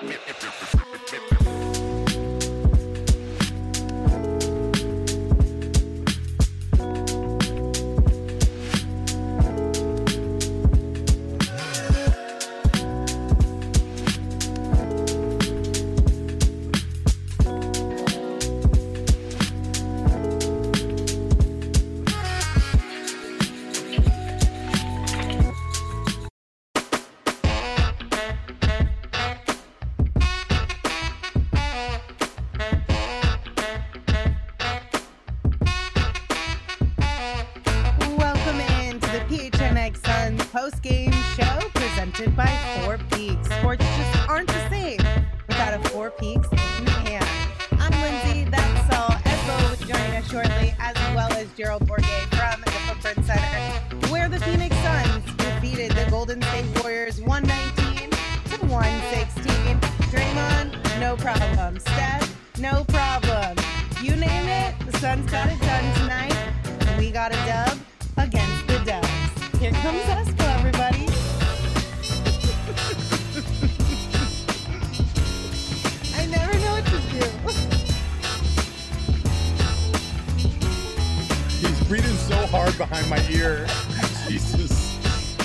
Welcome into the PHNX Suns post-game show presented by Four Peaks. Sports just aren't the same without a Four Peaks in hand. I'm Lindsay, that's Saul. Espo will be joining us shortly, as well as Gerald Bourguet from the Footprint Center, where the Phoenix Suns defeated the Golden State Warriors 119 to 116. Draymond, no problem. Steph, no problem. You name it, the Suns got it done tonight. We got a dub against the Dubs. Here comes Espo, everybody. I never know what to do. He's breathing so hard behind my ear. Jesus.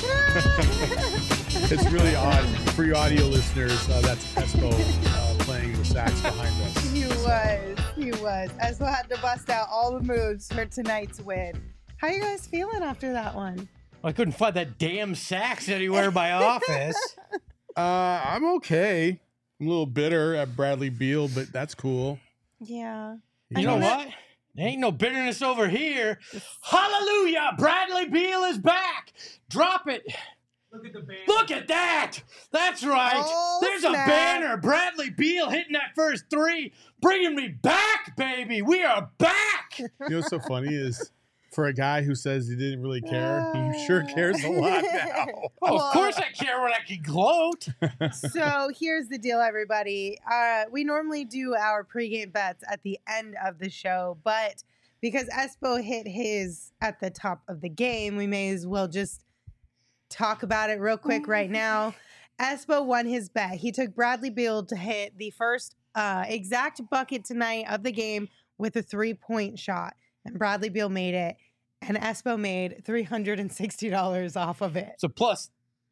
It's really odd. For you audio listeners, that's Espo playing the sax behind us. He was. Espo had to bust out all the moves for tonight's win. How you guys feeling after that one? I couldn't find that damn sax anywhere in my office. I'm okay. I'm a little bitter at Bradley Beal, but that's cool. Yeah. You know what? There ain't no bitterness over here. Hallelujah! Bradley Beal is back. Drop it. Look at the banner. Look at that. That's right. Oh, There's snap. a banner. Bradley Beal hitting that first three, bringing me back, baby. We are back. You know what's so funny is for a guy who says he didn't really care, he sure cares a lot now. Oh, of course I care when I can gloat. So here's the deal, everybody. We normally do our pregame bets at the end of the show, but because Espo hit his at the top of the game, we may as well just talk about it real quick right now. Espo won his bet. He took Bradley Beal to hit the first exact bucket tonight of the game with a 3-point shot, and Bradley Beal made it, and Espo made $360 off of it. So plus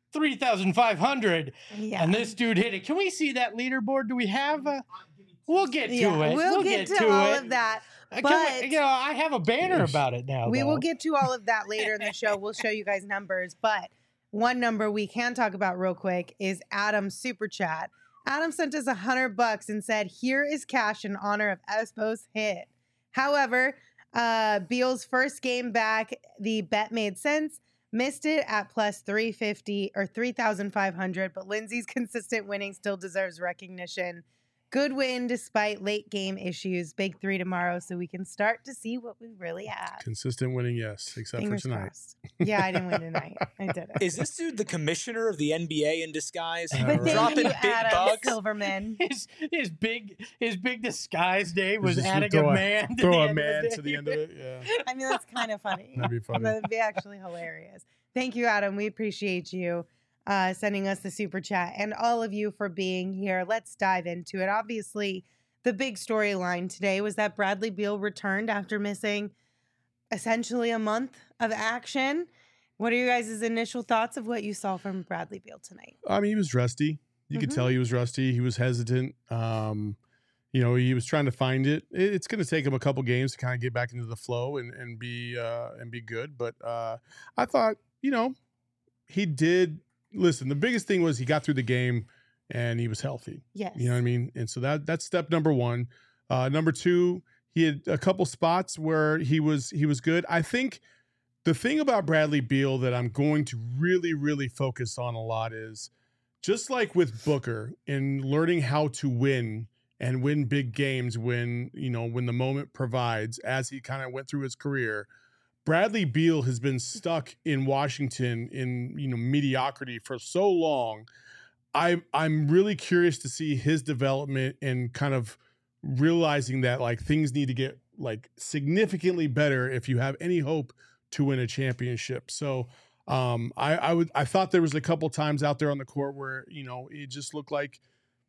3,500. Yeah. And this dude hit it. Can we see that leaderboard? Do we have a... We'll get to Yeah, it. We'll get to all of that. But I have a banner about it now. we though. will get to all of that later in the show. We'll show you guys numbers. But one number we can talk about real quick is Adam's super chat. Adam sent us $100 and said, "Here is cash in honor of Espo's hit." However, Beal's first game back, the bet made sense. Missed it at plus 350 or 3,500, but Lindsay's consistent winning still deserves recognition. Good win despite late game issues. Big 3 tomorrow so we can start to see what we really have. Consistent winning, yes, except Fingers for tonight. crossed. Yeah, I didn't win tonight. I didn't. Is this dude the commissioner of the NBA in disguise? But thank Dropping you, big Adam bucks? Silverman. His big disguise name was Just adding throw a man. to Throw the a end of man the to the day. end of it, yeah. I mean, that's kind of funny. That'd be funny. That'd be actually hilarious. Thank you, Adam. We appreciate you sending us the super chat and all of you for being here. Let's dive into it. Obviously, the big storyline today was that Bradley Beal returned after missing essentially a month of action. What are you guys' initial thoughts of what you saw from Bradley Beal tonight? I mean, he was rusty. You could tell he was rusty. He was hesitant. He was trying to find it. It's going to take him a couple games to kind of get back into the flow and be good. But I thought, he did. Listen, the biggest thing was he got through the game and he was healthy. Yes. You know what I mean? And so that's step number one. Number two, he had a couple spots where he was good. I think the thing about Bradley Beal that I'm going to really, really focus on a lot is just like with Booker in learning how to win and win big games when the moment provides, as he kind of went through his career. Bradley Beal has been stuck in Washington in mediocrity for so long. I'm really curious to see his development and kind of realizing that like things need to get like significantly better if you have any hope to win a championship. So I thought there was a couple times out there on the court where it just looked like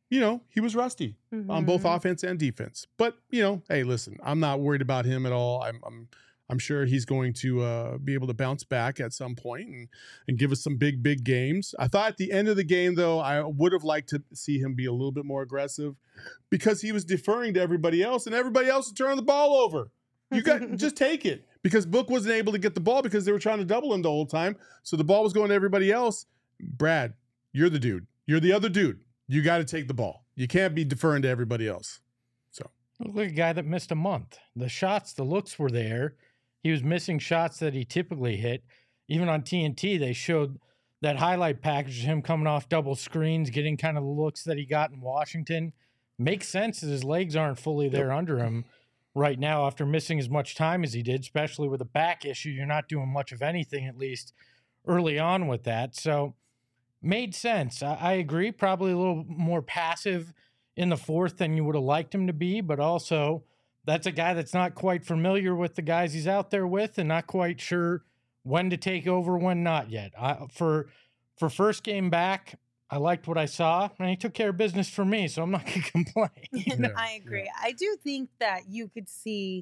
he was rusty on both offense and defense. But, hey, listen, I'm not worried about him at all. I'm sure he's going to be able to bounce back at some point and give us some big games. I thought at the end of the game, though, I would have liked to see him be a little bit more aggressive because he was deferring to everybody else, and everybody else was turning the ball over. You got just take it, because Book wasn't able to get the ball because they were trying to double him the whole time. So the ball was going to everybody else. Brad, you're the dude. You're the other dude. You got to take the ball. You can't be deferring to everybody else. So look like a guy that missed a month. The shots, the looks were there. He was missing shots that he typically hit. Even on TNT, they showed that highlight package of him coming off double screens, getting kind of the looks that he got in Washington. Makes sense that his legs aren't fully there under him right now after missing as much time as he did, especially with a back issue. You're not doing much of anything, at least early on with that. So made sense. I agree. Probably a little more passive in the fourth than you would have liked him to be, but also that's a guy that's not quite familiar with the guys he's out there with and not quite sure when to take over, when not yet. For first game back, I liked what I saw, and he took care of business for me, so I'm not going to complain. No, I agree. Yeah. I do think that you could see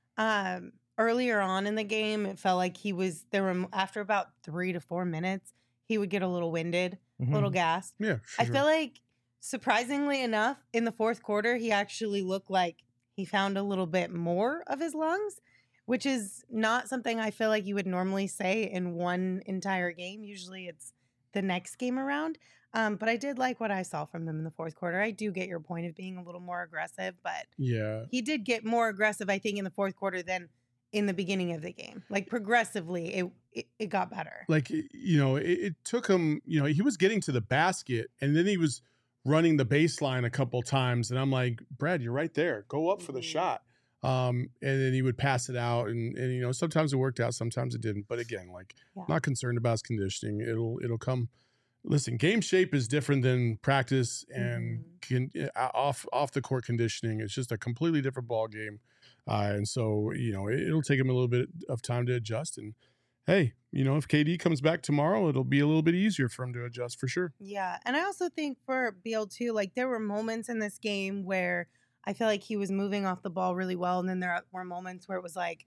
earlier on in the game, it felt like after about 3 to 4 minutes, he would get a little winded, a little gassed. Yeah, sure. I feel like, surprisingly enough, in the fourth quarter, he actually looked like he found a little bit more of his lungs, which is not something I feel like you would normally say in one entire game. Usually it's the next game around. But I did like what I saw from him in the fourth quarter. I do get your point of being a little more aggressive, but he did get more aggressive, I think, in the fourth quarter than in the beginning of the game. Like, progressively, it got better. Like, it took him, he was getting to the basket, and then he was running the baseline a couple times, and I'm like, Brad, you're right there. Go up for the shot. And then he would pass it out, and sometimes it worked out, sometimes it didn't. But again, not concerned about his conditioning. It'll come. Listen, game shape is different than practice and off the court conditioning. It's just a completely different ball game, and so it'll take him a little bit of time to adjust. And hey, if KD comes back tomorrow, it'll be a little bit easier for him to adjust for sure. Yeah, and I also think for Beal too, like, there were moments in this game where I feel like he was moving off the ball really well, and then there were moments where it was like,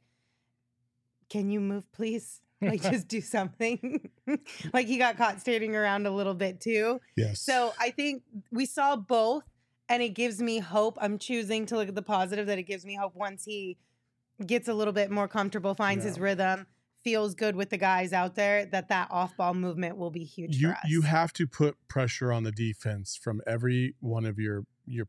can you move, please? Like, just do something. Like, he got caught standing around a little bit too. Yes. So I think we saw both, and it gives me hope. I'm choosing to look at the positive, that it gives me hope once he gets a little bit more comfortable, finds his rhythm, feels good with the guys out there, that off-ball movement will be huge for us. You have to put pressure on the defense from every one of your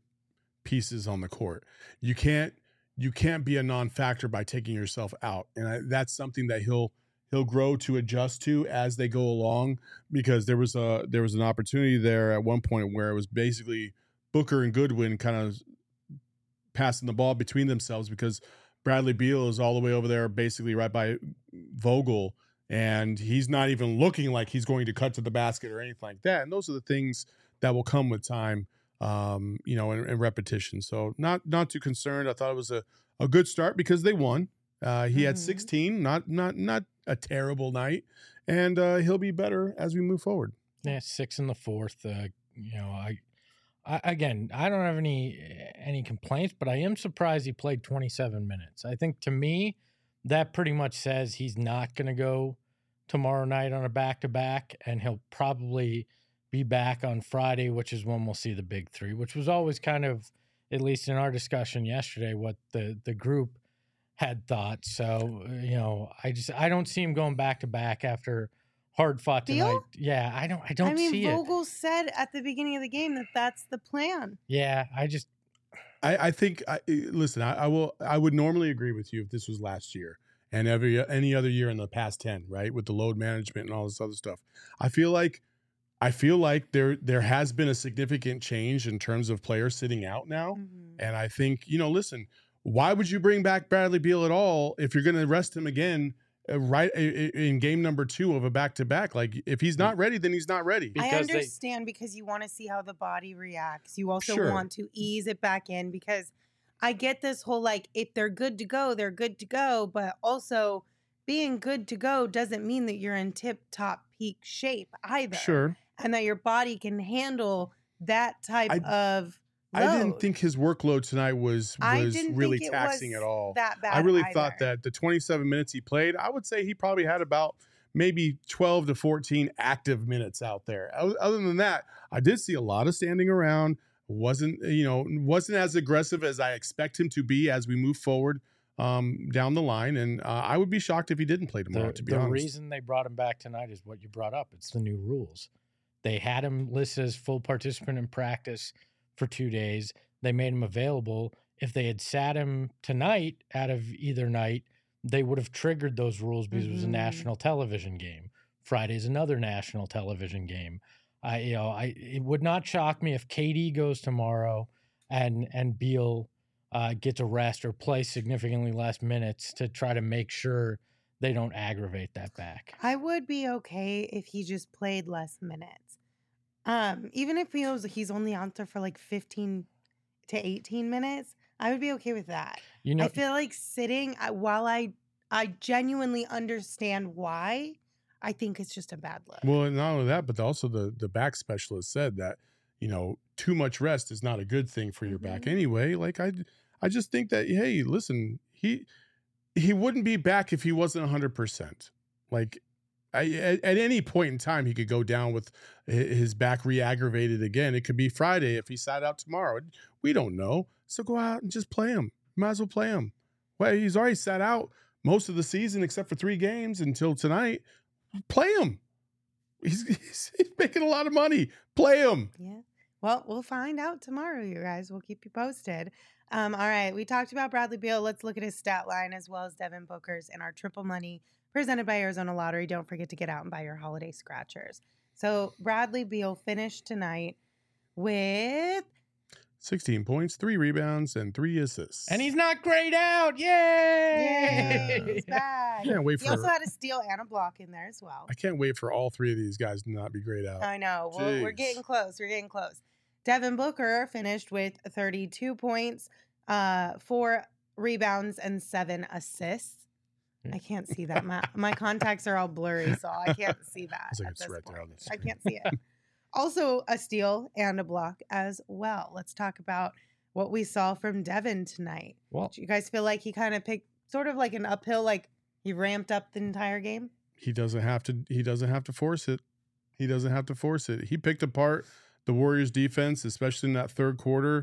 pieces on the court. You can't be a non-factor by taking yourself out, and that's something that he'll grow to adjust to as they go along, because there was an opportunity there at one point where it was basically Booker and Goodwin kind of passing the ball between themselves, because Bradley Beal is all the way over there basically right by Vogel, and he's not even looking like he's going to cut to the basket or anything like that. And those are the things that will come with time, and repetition. So not too concerned. I thought it was a good start because they won. He had 16, not a terrible night, and he'll be better as we move forward. Yeah, 6 in the fourth. I don't have any complaints, but I am surprised he played 27 minutes. I think, to me, that pretty much says he's not going to go tomorrow night on a back-to-back, and he'll probably be back on Friday, which is when we'll see the big three, which was always kind of, at least in our discussion yesterday, what the group had thought. So, I don't see him going back-to-back after hard-fought tonight. Beal? Yeah, I don't see it. Vogel said at the beginning of the game that that's the plan. Yeah, I think listen, I would normally agree with you if this was last year and any other year in the past 10, right? With the load management and all this other stuff. I feel like there has been a significant change in terms of players sitting out now. And I think, listen, why would you bring back Bradley Beal at all if you're going to rest him again right in game number 2 of a back-to-back? Like, if he's not ready, then he's not ready. I understand, because you want to see how the body reacts. You also want to ease it back in, because I get this whole, like, if they're good to go, they're good to go. But also, being good to go doesn't mean that you're in tip-top peak shape either. Sure. And that your body can handle that type of load. I didn't think his workload tonight was didn't really think it taxing was at all. that bad I really either. thought that the 27 minutes he played, I would say he probably had about maybe 12 to 14 active minutes out there. Other than that, I did see a lot of standing around. Wasn't as aggressive as I expect him to be as we move forward down the line. And I would be shocked if he didn't play tomorrow, to be honest. The reason they brought him back tonight is what you brought up. It's the new rules. They had him listed as full participant in practice for 2 days. They made him available. If they had sat him tonight out of either night, they would have triggered those rules because it was a national television game. Friday's another national television game. It would not shock me if KD goes tomorrow and Beal gets a rest or plays significantly less minutes to try to make sure they don't aggravate that back. I would be okay if he just played less minutes. Even if he's only out there for like 15 to 18 minutes, I would be okay with that. I feel like sitting, while I genuinely understand why, I think it's just a bad look. Well, and not only that, but also the back specialist said that, too much rest is not a good thing for your back anyway. Like I just think that, hey, listen, he wouldn't be back if he wasn't 100%. Like at any point in time, he could go down with his back re-aggravated again. It could be Friday if he sat out tomorrow. We don't know. So go out and just play him. Might as well play him. Well, he's already sat out most of the season except for 3 games until tonight. Play him. He's making a lot of money. Play him. Yeah. Well, we'll find out tomorrow, you guys. We'll keep you posted. All right. We talked about Bradley Beal. Let's look at his stat line as well as Devin Booker's in our Triple Money presented by Arizona Lottery. Don't forget to get out and buy your holiday scratchers. So Bradley Beal finished tonight with 16 points, 3 rebounds, and 3 assists. And he's not grayed out. Yay! Yay! He's back. Can't wait He also had a steal and a block in there as well. I can't wait for all 3 of these guys to not be grayed out. I know. Well, we're getting close. We're getting close. Devin Booker finished with 32 points, 4 rebounds, and 7 assists. I can't see that. My contacts are all blurry, so I can't see that. It's like at it's this right point. there on the I screen. can't see it. Also, a steal and a block as well. Let's talk about what we saw from Devin tonight. Well, Do you guys feel like he kind of picked sort of like an uphill, like he ramped up the entire game? He doesn't have to force it. He doesn't have to force it. He picked apart the Warriors defense, especially in that third quarter.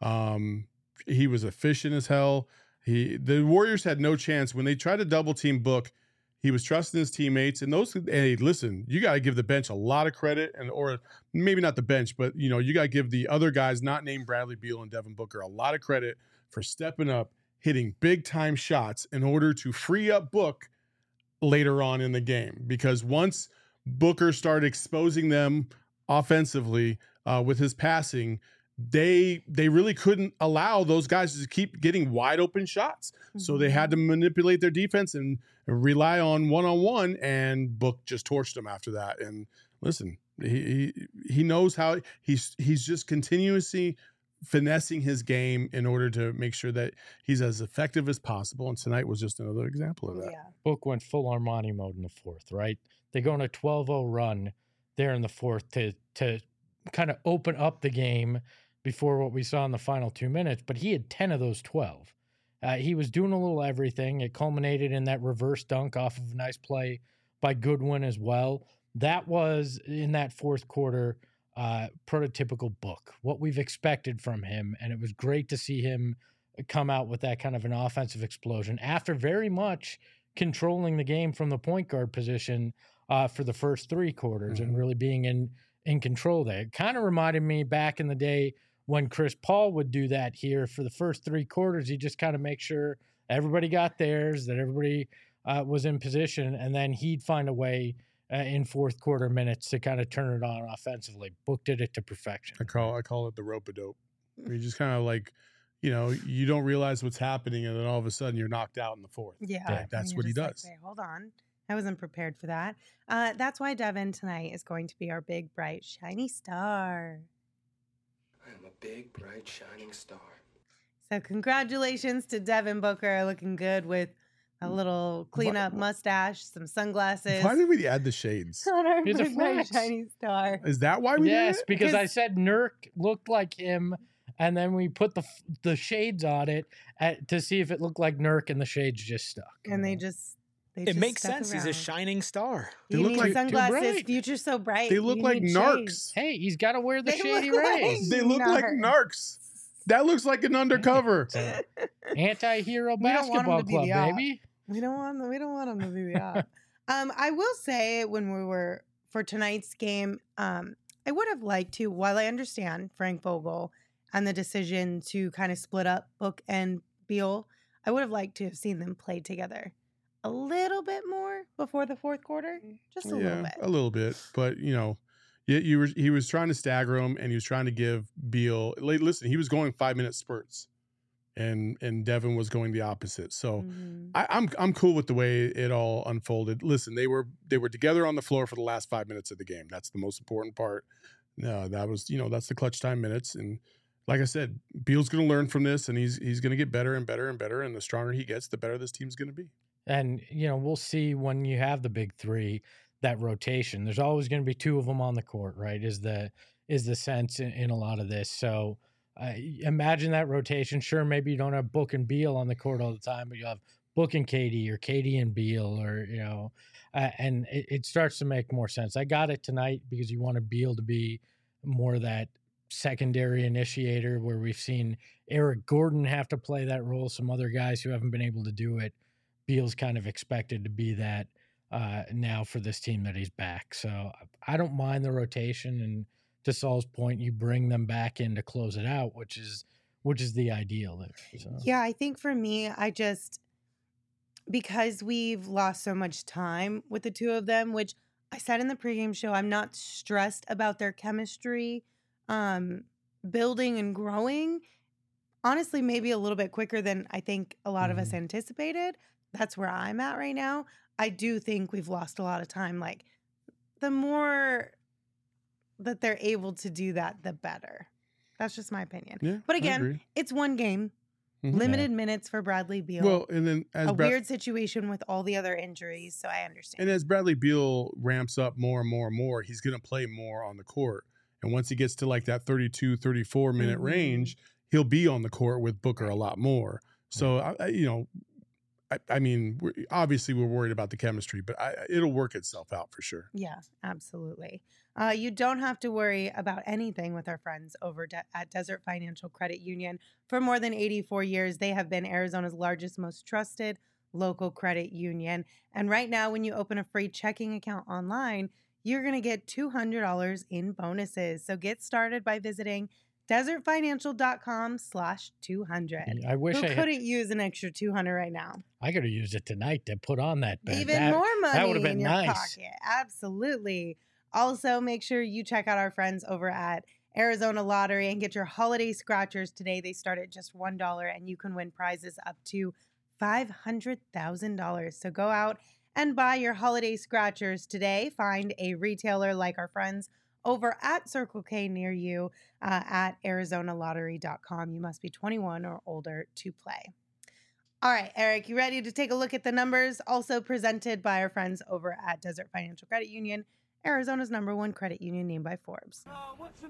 He was efficient as hell. The Warriors had no chance when they tried to double team Book. He was trusting his teammates, and hey, listen, you got to give the bench a lot of credit, or maybe not the bench, but you got to give the other guys not named Bradley Beal and Devin Booker a lot of credit for stepping up, hitting big time shots in order to free up Book later on in the game. Because once Booker started exposing them offensively with his passing, they really couldn't allow those guys to keep getting wide open shots. So they had to manipulate their defense and rely on one-on-one, and Book just torched them after that. And listen, he knows how he's just continuously finessing his game in order to make sure that he's as effective as possible. And tonight was just another example of that. Yeah. Book went full Armani mode in the fourth, right? They go on a 12-0 run there in the fourth to kind of open up the game before what we saw in the final 2 minutes, but he had 10 of those 12. He was doing a little everything. It culminated in that reverse dunk off of a nice play by Goodwin as well. That was, in that fourth quarter, prototypical Book, what we've expected from him, and it was great to see him come out with that kind of an offensive explosion after very much controlling the game from the point guard position for the first 3 quarters and really being in control there. It kind of reminded me back in the day when Chris Paul would do that here for the first 3 quarters. He'd just kind of make sure everybody got theirs, that everybody was in position, and then he'd find a way in fourth quarter minutes to kind of turn it on offensively. Book did it to perfection. I call it the rope-a-dope. You just kind of like, you don't realize what's happening, and then all of a sudden you're knocked out in the fourth. Yeah. That's And what you're he just does. like, "Wait, hold on. I wasn't prepared for that." That's why Devin tonight is going to be our big, bright, shiny star. I am a big, bright, shining star. So congratulations to Devin Booker, looking good with a little cleanup mustache, some sunglasses. Why did we add the shades? On our He's a big bright flex. shiny star. Is that why we did Yes, it? because I Because- said Nurk looked like him, and then we put the shades on it to see if it looked like Nurk, and the shades just stuck. And they just It makes stuck sense. He's a around. shining star. They You look need like- sunglasses. bright. Future's so bright. They look you like need narcs. shades. Hey, he's got to wear the They shady look rays. They look like narcs. That looks like an undercover. Anti-hero We don't want 'em basketball to be club, the op. baby. We don't want them to be the op. I will say when we were for tonight's game, I would have liked to, while I understand Frank Vogel and the decision to kind of split up Book and Beal, I would have liked to have seen them play together a little bit more before the fourth quarter. Just a little bit. A little bit. But, he was trying to stagger him, and he was trying to give Beal. Listen, he was going 5-minute spurts, and Devin was going the opposite. So Mhm. I'm cool with the way it all unfolded. Listen, they were together on the floor for the last 5 minutes of the game. That's the most important part. No, that was that's the clutch time minutes, and like I said, Beal's going to learn from this, and he's going to get better and better and better. And the stronger he gets, the better this team's going to be. And we'll see when you have the big three, that rotation. There's always going to be two of them on the court, right? Is the sense in a lot of this. So imagine that rotation. Sure, maybe you don't have Book and Beal on the court all the time, but you have Book and Katie, or Katie and Beal, or and it starts to make more sense. I got it tonight because you wanted Beal to be more that secondary initiator, where we've seen Eric Gordon have to play that role. Some other guys who haven't been able to do it. Beal's kind of expected to be that now for this team that he's back. So I don't mind the rotation, and to Saul's point, you bring them back in to close it out, which is the ideal there. So. Yeah, I think for me, because we've lost so much time with the two of them, which I said in the pregame show, I'm not stressed about their chemistry building and growing. Honestly, maybe a little bit quicker than I think a lot of us anticipated. That's where I'm at right now. I do think we've lost a lot of time. Like, the more that they're able to do that, the better. That's just my opinion. Yeah, But I again, agree. it's one game. Mhm. Limited minutes for Bradley Beal. Well, and then a weird situation with all the other injuries, so I understand. And as Bradley Beal ramps up more and more and more, he's going to play more on the court. And once he gets to like that 32, 34 minute Mhm. range, he'll be on the court with Booker a lot more. So, I mean, obviously we're worried about the chemistry, but it'll work itself out for sure. Yeah, absolutely. You don't have to worry about anything with our friends over at Desert Financial Credit Union. For more than 84 years, they have been Arizona's largest, most trusted local credit union. And right now, when you open a free checking account online, you're going to get $200 in bonuses. So get started by visiting desertfinancial.com/200. I wish Who I had, couldn't use an extra 200 right now? I could have used it tonight to put on that bet. Even That- more money that would've been in your nice. pocket. Absolutely. Also, make sure you check out our friends over at Arizona Lottery and get your holiday scratchers today. They start at just $1, and you can win prizes up to $500,000. So go out and buy your holiday scratchers today. Find a retailer like our friends over at Circle K near you at ArizonaLottery.com. You must be 21 or older to play. All right, Eric, you ready to take a look at the numbers? Also presented by our friends over at Desert Financial Credit Union, Arizona's #1 credit union named by Forbes. What's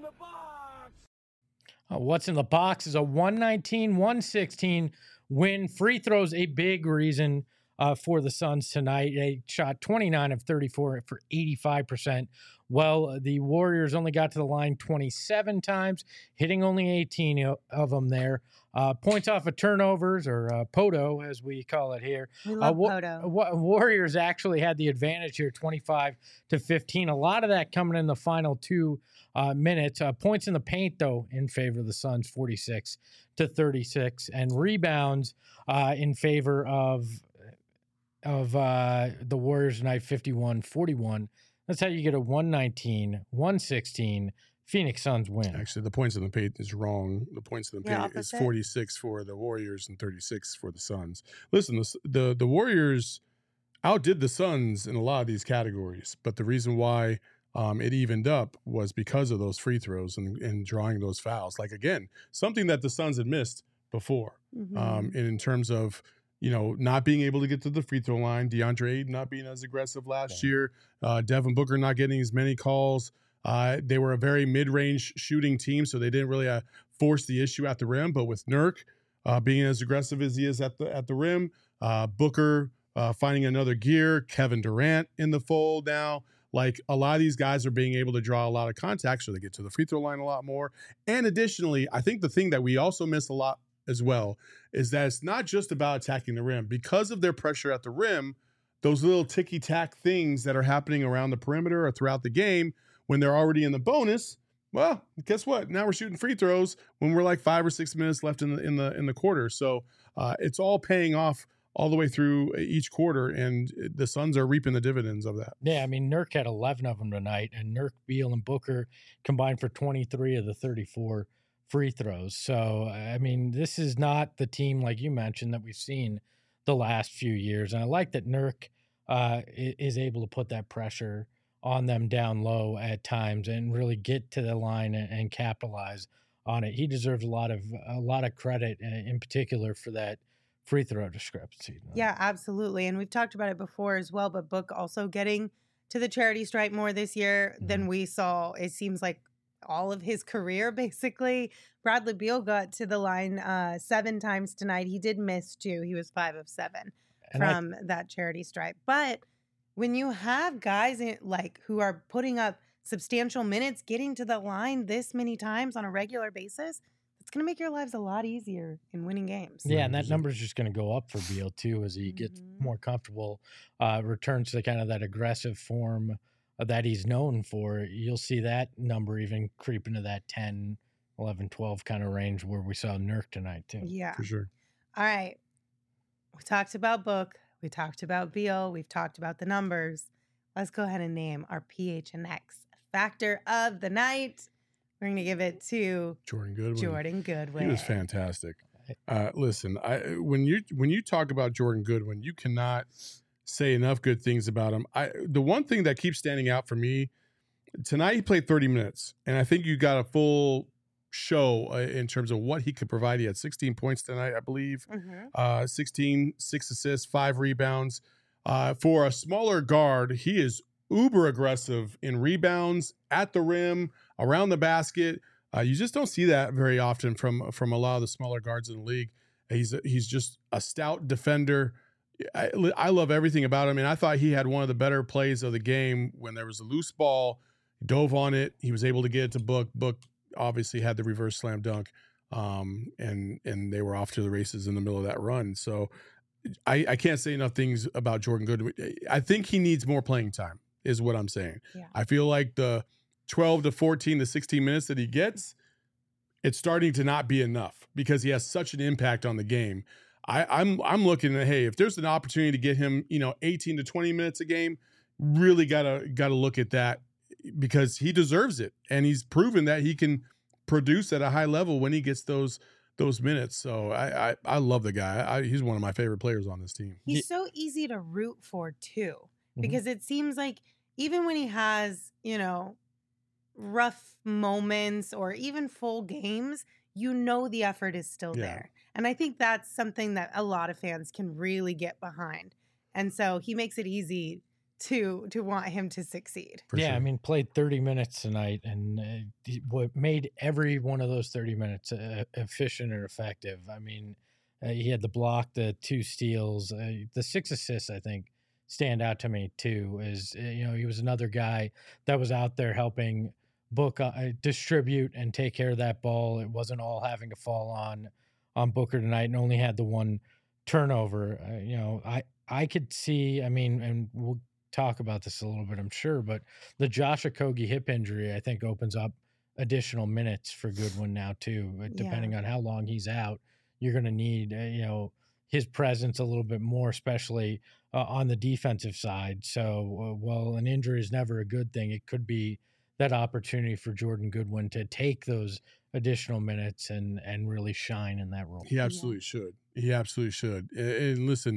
in the box is a 119-116 win. Free throws, a big reason for the Suns tonight. They shot 29 of 34 for 85%. Well, the Warriors only got to the line 27 times, hitting only 18 of them there. Points off of turnovers, or POTO, as we call it here. We love Poto. Warriors actually had the advantage here, 25-15. A lot of that coming in the final 2 minutes. Points in the paint, though, in favor of the Suns, 46-36. And rebounds in favor of the Warriors tonight, 51-41. That's how you get a 119-116 Phoenix Suns win. Actually, the points in the paint is wrong. The points in the Yeah, paint is opposite. 46 for the Warriors and 36 for the Suns. Listen, the Warriors outdid the Suns in a lot of these categories, but the reason why it evened up was because of those free throws and drawing those fouls. Like, again, something that the Suns had missed before. Mhm. And in terms of not being able to get to the free throw line, DeAndre Ayton not being as aggressive last year, Devin Booker not getting as many calls. They were a very mid-range shooting team, so they didn't really force the issue at the rim. But with Nurk being as aggressive as he is at the rim, Booker finding another gear, Kevin Durant in the fold now. Like, a lot of these guys are being able to draw a lot of contact, so they get to the free throw line a lot more. And additionally, I think the thing that we also miss a lot as well is that it's not just about attacking the rim. Because of their pressure at the rim, those little ticky-tack things that are happening around the perimeter or throughout the game, when they're already in the bonus, well, guess what? Now we're shooting free throws when we're like 5 or 6 minutes left in the quarter. So it's all paying off all the way through each quarter, and the Suns are reaping the dividends of that. Yeah, I mean, Nurk had 11 of them tonight, and Nurk, Beal, and Booker combined for 23 of the 34 free throws. So, I mean, this is not the team, like you mentioned, that we've seen the last few years. And I like that Nurk is able to put that pressure on them down low at times and really get to the line and capitalize on it. He deserves a lot of credit, in particular, for that free throw discrepancy. Yeah, absolutely. And we've talked about it before as well, but Book also getting to the charity stripe more this year than we saw, it seems like, all of his career, basically. Bradley Beal got to the line 7 times tonight. He did miss 2. He was 5 of 7 from that charity stripe. But when you have guys who are putting up substantial minutes, getting to the line this many times on a regular basis, it's going to make your lives a lot easier in winning games. Yeah, and that number is just going to go up for Beal, too, as he gets more comfortable, returns to kind of that aggressive form that he's known for. You'll see that number even creep into that 10, 11, 12 kind of range where we saw Nurk tonight, too. Yeah. For sure. All right. We talked about Book. We talked about Beal. We've talked about the numbers. Let's go ahead and name our PHNX factor of the night. We're going to give it to Jordan Goodwin. Jordan Goodwin. He was fantastic. Listen, when you talk about Jordan Goodwin, you cannot say enough good things about him. The one thing that keeps standing out for me tonight, he played 30 minutes, and I think you got a full show in terms of what he could provide. He had 16 points tonight, I believe. 16, 6 assists, 5 rebounds. For a smaller guard, he is uber aggressive in rebounds, at the rim, around the basket. You just don't see that very often from a lot of the smaller guards in the league. He's just a stout defender. I love everything about him, and I thought he had one of the better plays of the game when there was a loose ball, dove on it. He was able to get it to Book. Book obviously had the reverse slam dunk, and they were off to the races in the middle of that run. So I can't say enough things about Jordan Goodwin. I think he needs more playing time, is what I'm saying. Yeah. I feel like the 12 to 14 to 16 minutes that he gets, it's starting to not be enough because he has such an impact on the game. I'm looking at, hey, if there's an opportunity to get him, 18 to 20 minutes a game, really gotta look at that because he deserves it, and he's proven that he can produce at a high level when he gets those minutes. So I love the guy. He's one of my favorite players on this team. He's so easy to root for too, because it seems like even when he has, rough moments or even full games, the effort is still there. And I think that's something that a lot of fans can really get behind. And so he makes it easy to want him to succeed. For sure. I mean, played 30 minutes tonight, and what made every one of those 30 minutes efficient and effective. I mean, he had the block, the 2 steals, the 6 assists, I think, stand out to me too. He was another guy that was out there helping Book distribute and take care of that ball. It wasn't all having to fall on Booker tonight, and only had the 1 turnover. I could see, I mean, and we'll talk about this a little bit, I'm sure, but the Josh Okogie hip injury, I think, opens up additional minutes for Goodwin now too. Depending on how long he's out, you're going to need, his presence a little bit more, especially on the defensive side. So while an injury is never a good thing, it could be that opportunity for Jordan Goodwin to take those additional minutes and really shine in that role. He absolutely should. He absolutely should. And listen,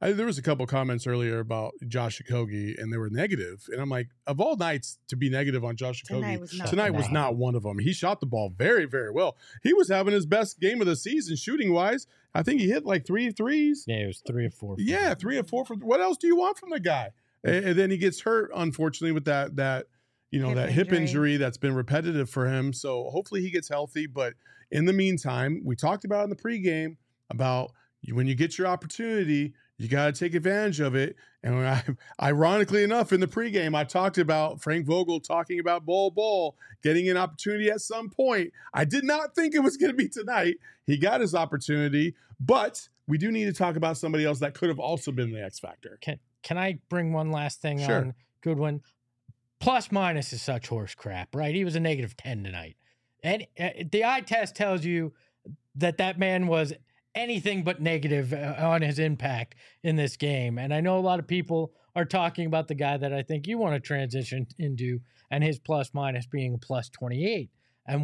There was a couple comments earlier about Josh Okogie, and they were negative. And I'm like, of all nights to be negative on Josh Okogie, tonight was not one of them. He shot the ball very, very well. He was having his best game of the season shooting wise. I think he hit like 3 threes. Yeah, it was 3 or 4. Yeah, 3 or 4. What else do you want from the guy? And then he gets hurt, unfortunately, with that hip injury that's been repetitive for him. So hopefully he gets healthy. But in the meantime, we talked about in the pregame about when you get your opportunity, you got to take advantage of it. And ironically enough, in the pregame, I talked about Frank Vogel talking about Bol getting an opportunity at some point. I did not think it was going to be tonight. He got his opportunity, but we do need to talk about somebody else that could have also been the X factor. Can I bring one last thing on Goodwin? Plus minus is such horse crap, right? He was a -10 tonight. And the eye test tells you that man was anything but negative on his impact in this game. And I know a lot of people are talking about the guy that I think you want to transition into and his plus minus being a +28. And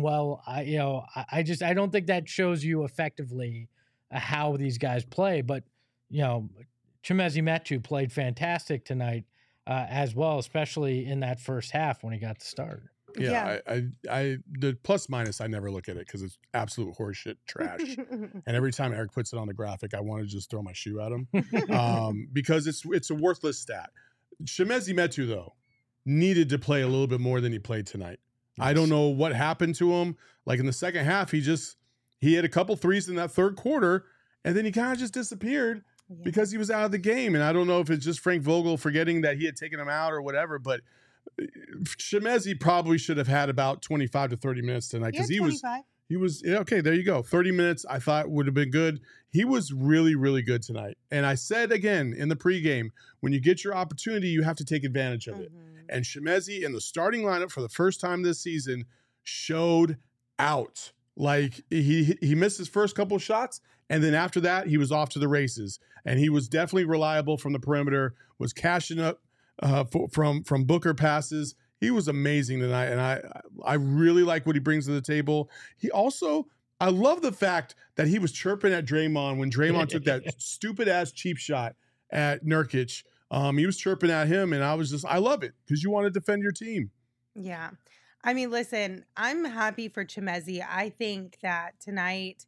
I don't think that shows you effectively how these guys play. But, Chimezie Metu played fantastic tonight as well, especially in that first half when he got the start. Yeah. I the plus minus, I never look at it because it's absolute horseshit trash. And every time Eric puts it on the graphic, I want to just throw my shoe at him because it's a worthless stat. Chimezie Metu, though, needed to play a little bit more than he played tonight. Yes. I don't know what happened to him. Like in the second half, he had a couple threes in that third quarter, and then he kind of just disappeared because he was out of the game. And I don't know if it's just Frank Vogel forgetting that he had taken him out or whatever, but Chimezie probably should have had about 25 to 30 minutes tonight because he was okay. There you go. 30 minutes I thought would have been good. He was really, really good tonight. And I said again in the pregame, when you get your opportunity, you have to take advantage of it. And Chimezie in the starting lineup for the first time this season showed out. Like he missed his first couple shots, and then after that he was off to the races. And he was definitely reliable from the perimeter. Was cashing up from Booker passes. He was amazing tonight, and I really like what he brings to the table. He also, I love the fact that he was chirping at Draymond when Draymond took that stupid ass cheap shot at Nurkic. He was chirping at him, and I love it because you want to defend your team. Yeah. I mean, listen, I'm happy for Chimezie. I think that tonight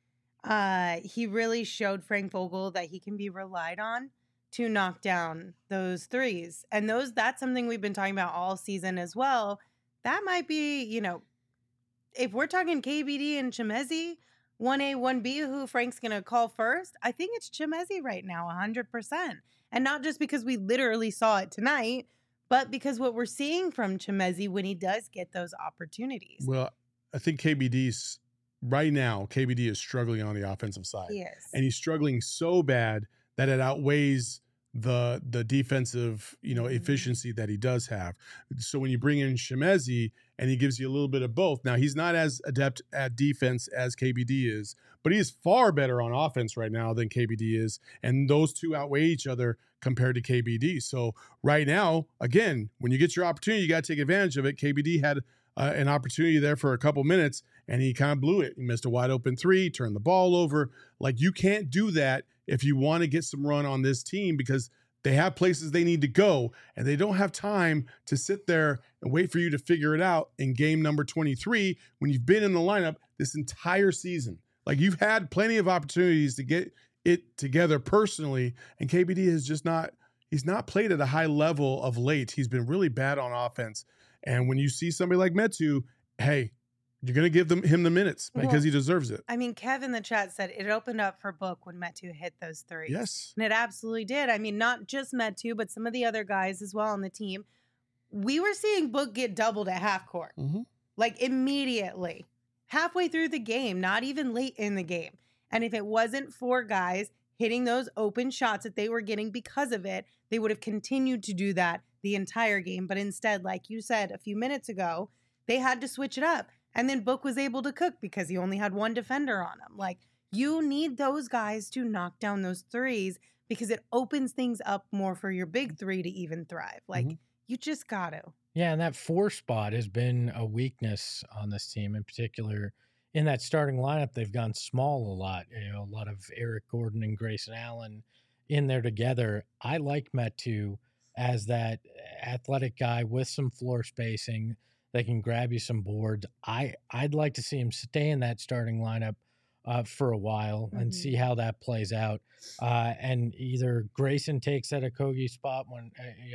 he really showed Frank Vogel that he can be relied on to knock down those threes. And that's something we've been talking about all season as well. That might be, if we're talking KBD and Chimezie, 1A, 1B, who Frank's going to call first, I think it's Chimezie right now, 100%. And not just because we literally saw it tonight, but because what we're seeing from Chimezie when he does get those opportunities. Well, I think KBD is struggling on the offensive side. He is. And he's struggling so bad that it outweighs the defensive, efficiency that he does have. So when you bring in Chimezie and he gives you a little bit of both. Now, he's not as adept at defense as KBD is, but he is far better on offense right now than KBD is. And those two outweigh each other compared to KBD. So right now, again, when you get your opportunity, you got to take advantage of it. KBD had an opportunity there for a couple minutes, and he kind of blew it. He missed a wide open three, turned the ball over. Like, you can't do that if you want to get some run on this team because they have places they need to go, and they don't have time to sit there and wait for you to figure it out in game number 23 when you've been in the lineup this entire season. Like, you've had plenty of opportunities to get it together personally, and KBD has just he's not played at a high level of late. He's been really bad on offense. And when you see somebody like Metu, hey, you're going to give him the minutes because he deserves it. I mean, Kev in the chat said it opened up for Book when Metu hit those threes. Yes. And it absolutely did. I mean, not just Metu, but some of the other guys as well on the team. We were seeing Book get doubled at half court. Like, immediately. Halfway through the game, not even late in the game. And if it wasn't for guys hitting those open shots that they were getting because of it, they would have continued to do that the entire game. But instead, like you said a few minutes ago, they had to switch it up. And then Book was able to cook because he only had one defender on him. Like, you need those guys to knock down those threes because it opens things up more for your big three to even thrive. Like, you just got to. Yeah, and that 4 spot has been a weakness on this team, in particular. In that starting lineup, they've gone small a lot. A lot of Eric Gordon and Grayson Allen in there together. I like Metu as that athletic guy with some floor spacing that can grab you some boards. I'd like to see him stay in that starting lineup for a while and see how that plays out. And either Grayson takes that Okogie spot when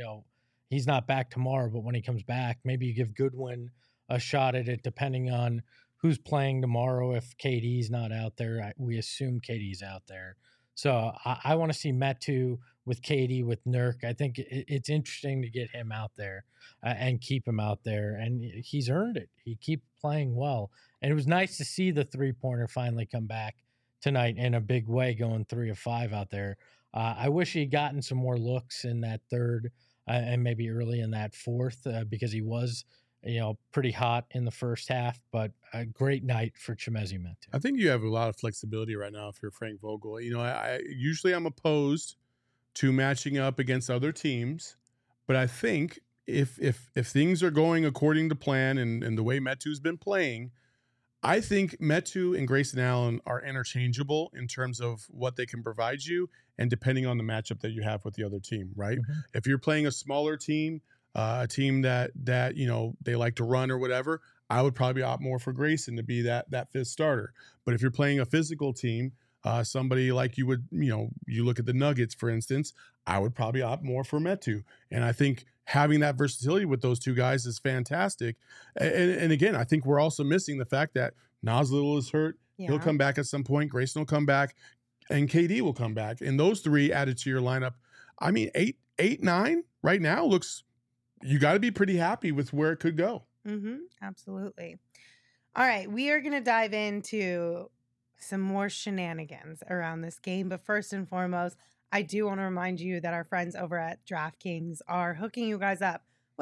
he's not back tomorrow, but when he comes back, maybe you give Goodwin a shot at it, depending on who's playing tomorrow. If KD's not out there, we assume KD's out there. So I want to see Metu with KD, with Nurk. I think it's interesting to get him out there and keep him out there. And he's earned it. He keeps playing well. And it was nice to see the three-pointer finally come back tonight in a big way, going 3 of 5 out there. I wish he'd gotten some more looks in that third and maybe early in that fourth because he was pretty hot in the first half, but a great night for Chimezie Metu. I think you have a lot of flexibility right now if you're Frank Vogel. I usually I'm opposed to matching up against other teams, but I think if things are going according to plan and the way Metu's been playing, I think Metu and Grayson Allen are interchangeable in terms of what they can provide you and depending on the matchup that you have with the other team, right? Mm-hmm. If you're playing a smaller team, a team that they like to run or whatever, I would probably opt more for Grayson to be that fifth starter. But if you're playing a physical team, somebody like you would, you look at the Nuggets, for instance, I would probably opt more for Metu. And I think having that versatility with those two guys is fantastic. And again, I think we're also missing the fact that Nas Little is hurt. Yeah. He'll come back at some point. Grayson will come back and KD will come back. And those three added to your lineup, I mean, 8, 9 right now looks, you got to be pretty happy with where it could go. Mm-hmm. Absolutely. All right. We are going to dive into some more shenanigans around this game. But first and foremost, I do want to remind you that our friends over at DraftKings are hooking you guys up with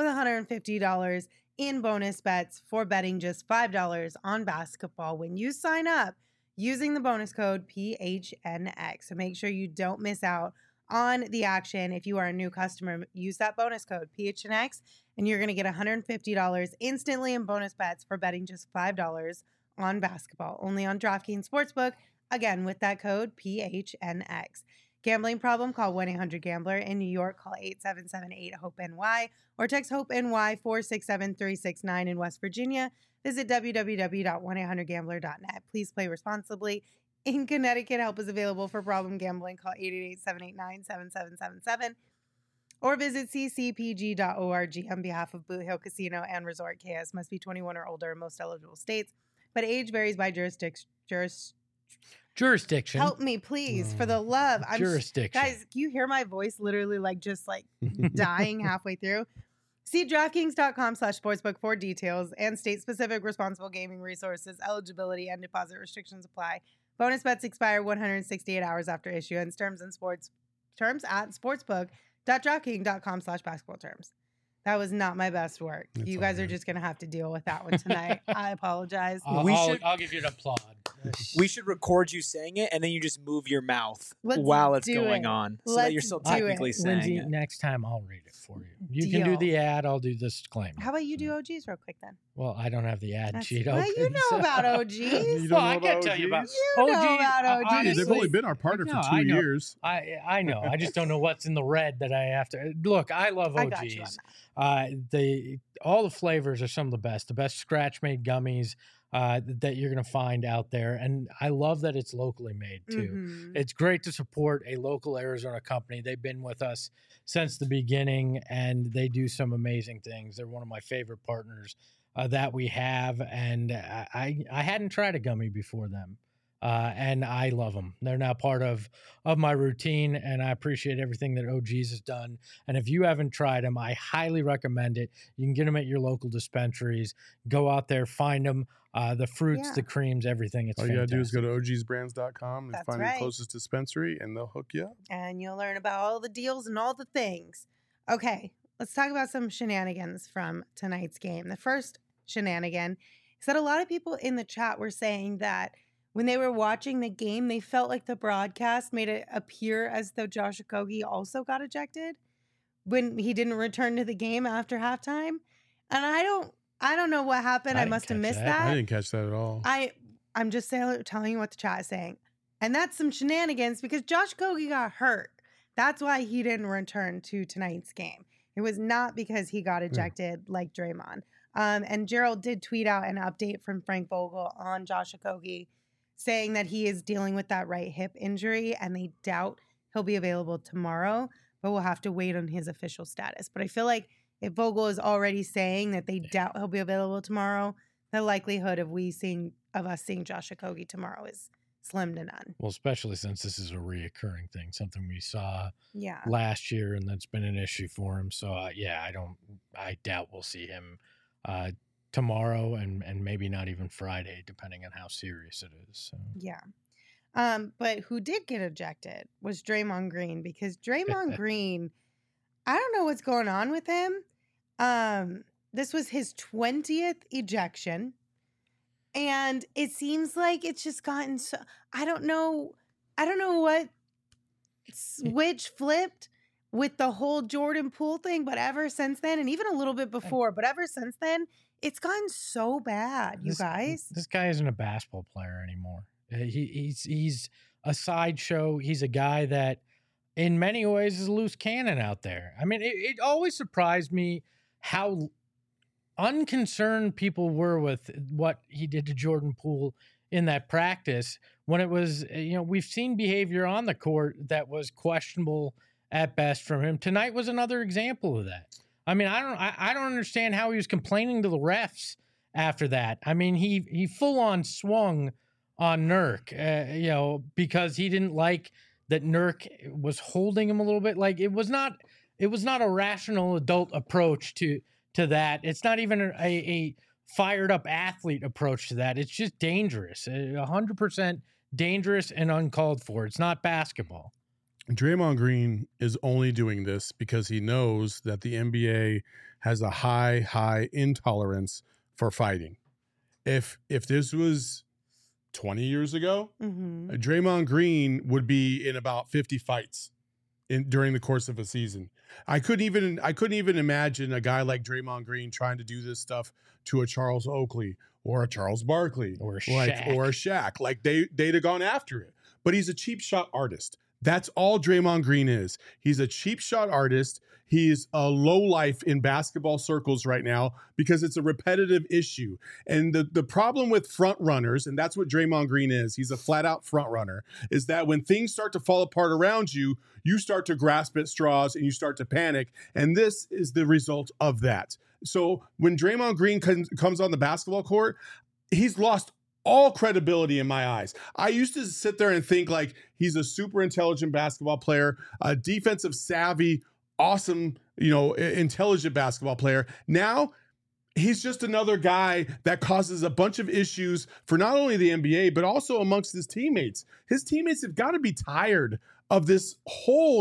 $150 in bonus bets for betting just $5 on basketball when you sign up using the bonus code PHNX. So make sure you don't miss out on the action. If you are a new customer, use that bonus code PHNX and you're going to get $150 instantly in bonus bets for betting just $5 on basketball. Only on DraftKings Sportsbook. Again, with that code PHNX. Gambling problem? Call 1-800-GAMBLER. In New York, call 877-8-HOPE-NY or text HOPE-NY 467-369. In West Virginia, visit www.1800gambler.net. Please play responsibly. In Connecticut, help is available for problem gambling. Call 888-789-7777 or visit ccpg.org on behalf of Boot Hill Casino and Resort. KS must be 21 or older in most eligible states, but age varies by jurisdiction. Help me, please, for the love. Jurisdiction. Guys, can you hear my voice literally just dying halfway through? See DraftKings.com/sportsbook for details and state-specific responsible gaming resources, eligibility, and deposit restrictions apply. Bonus bets expire 168 hours after issuance. Terms at sportsbook.draftkings.com/basketball terms. That was not my best work. It's you guys are just going to have to deal with that one tonight. I apologize. I'll give you an applaud. We should record you saying it, and then you just move your mouth Let's while it's do going it. on, so Let's that you're still do technically it. saying Lindsay, it. next time I'll read it for you. You can do the ad. I'll do this disclaimer. How about you do OGs real quick then? Well, I don't have the ad sheet Well, open. you know about OGs. You don't Well, know I can't about tell you about OGs? You know about OGs. honestly, They've only been our partner No, for I 2 know. years. I know. I just don't know what's in the red that I have to look. I love I got you on OGs. All the flavors are some of the best scratch made gummies that you're going to find out there. And I love that it's locally made too. Mm-hmm. It's great to support a local Arizona company. They've been with us since the beginning and they do some amazing things. They're one of my favorite partners that we have. And I hadn't tried a gummy before them. And I love them. They're now part of my routine, and I appreciate everything that OGs has done. And if you haven't tried them, I highly recommend it. You can get them at your local dispensaries. Go out there, find them. The fruits, the creams, everything. It's All you got to do is fantastic. go to ogsbrands.com and That's find right. your closest dispensary, and they'll hook you up. And you'll learn about all the deals and all the things. Okay, let's talk about some shenanigans from tonight's game. The first shenanigan is that a lot of people in the chat were saying that when they were watching the game, they felt like the broadcast made it appear as though Josh Okogie also got ejected when he didn't return to the game after halftime. And I don't know what happened. I didn't must have catch missed that. that. I didn't catch that at all. I'm just telling you what the chat is saying. And that's some shenanigans because Josh Okogie got hurt. That's why he didn't return to tonight's game. It was not because he got ejected like Draymond. And Gerald did tweet out an update from Frank Vogel on Josh Okogie saying that he is dealing with that right hip injury and they doubt he'll be available tomorrow, but we'll have to wait on his official status. But I feel like if Vogel is already saying that they doubt he'll be available tomorrow, the likelihood of us seeing Josh Okogie tomorrow is slim to none. Well, especially since this is a reoccurring thing, something we saw Yeah. last year, and that's been an issue for him. So I doubt we'll see him tomorrow and maybe not even Friday, depending on how serious it is. So. Yeah. But who did get ejected was Draymond Green, because Draymond Green, I don't know what's going on with him. This was his 20th ejection. And it seems like it's just gotten so, I don't know what switch flipped with the whole Jordan Poole thing, but ever since then, and even a little bit before, but ever since then, it's gotten so bad, you guys. This guy isn't a basketball player anymore. He's a sideshow. He's a guy that in many ways is a loose cannon out there. I mean, it always surprised me how unconcerned people were with what he did to Jordan Poole in that practice when it was, we've seen behavior on the court that was questionable at best from him. Tonight was another example of that. I mean, I don't understand how he was complaining to the refs after that. I mean, he full on swung on Nurk, because he didn't like that Nurk was holding him a little bit. Like it was not a rational adult approach to that. It's not even a fired up athlete approach to that. It's just dangerous, 100% dangerous and uncalled for. It's not basketball. Draymond Green is only doing this because he knows that the NBA has a high intolerance for fighting. If this was 20 years ago, Draymond Green would be in about 50 fights during the course of a season. I couldn't even imagine a guy like Draymond Green trying to do this stuff to a Charles Oakley or a Charles Barkley or a Shaq. Like they'd have gone after it. But he's a cheap shot artist. That's all Draymond Green is. He's a cheap shot artist. He's a low life in basketball circles right now because it's a repetitive issue. And the problem with front runners, and that's what Draymond Green is, he's a flat out front runner, is that when things start to fall apart around you, you start to grasp at straws and you start to panic. And this is the result of that. So when Draymond Green comes on the basketball court, he's lost all credibility in my eyes. I used to sit there and think like he's a super intelligent basketball player, a defensive savvy, awesome, intelligent basketball player. Now he's just another guy that causes a bunch of issues for not only the NBA, but also amongst his teammates. His teammates have got to be tired of this whole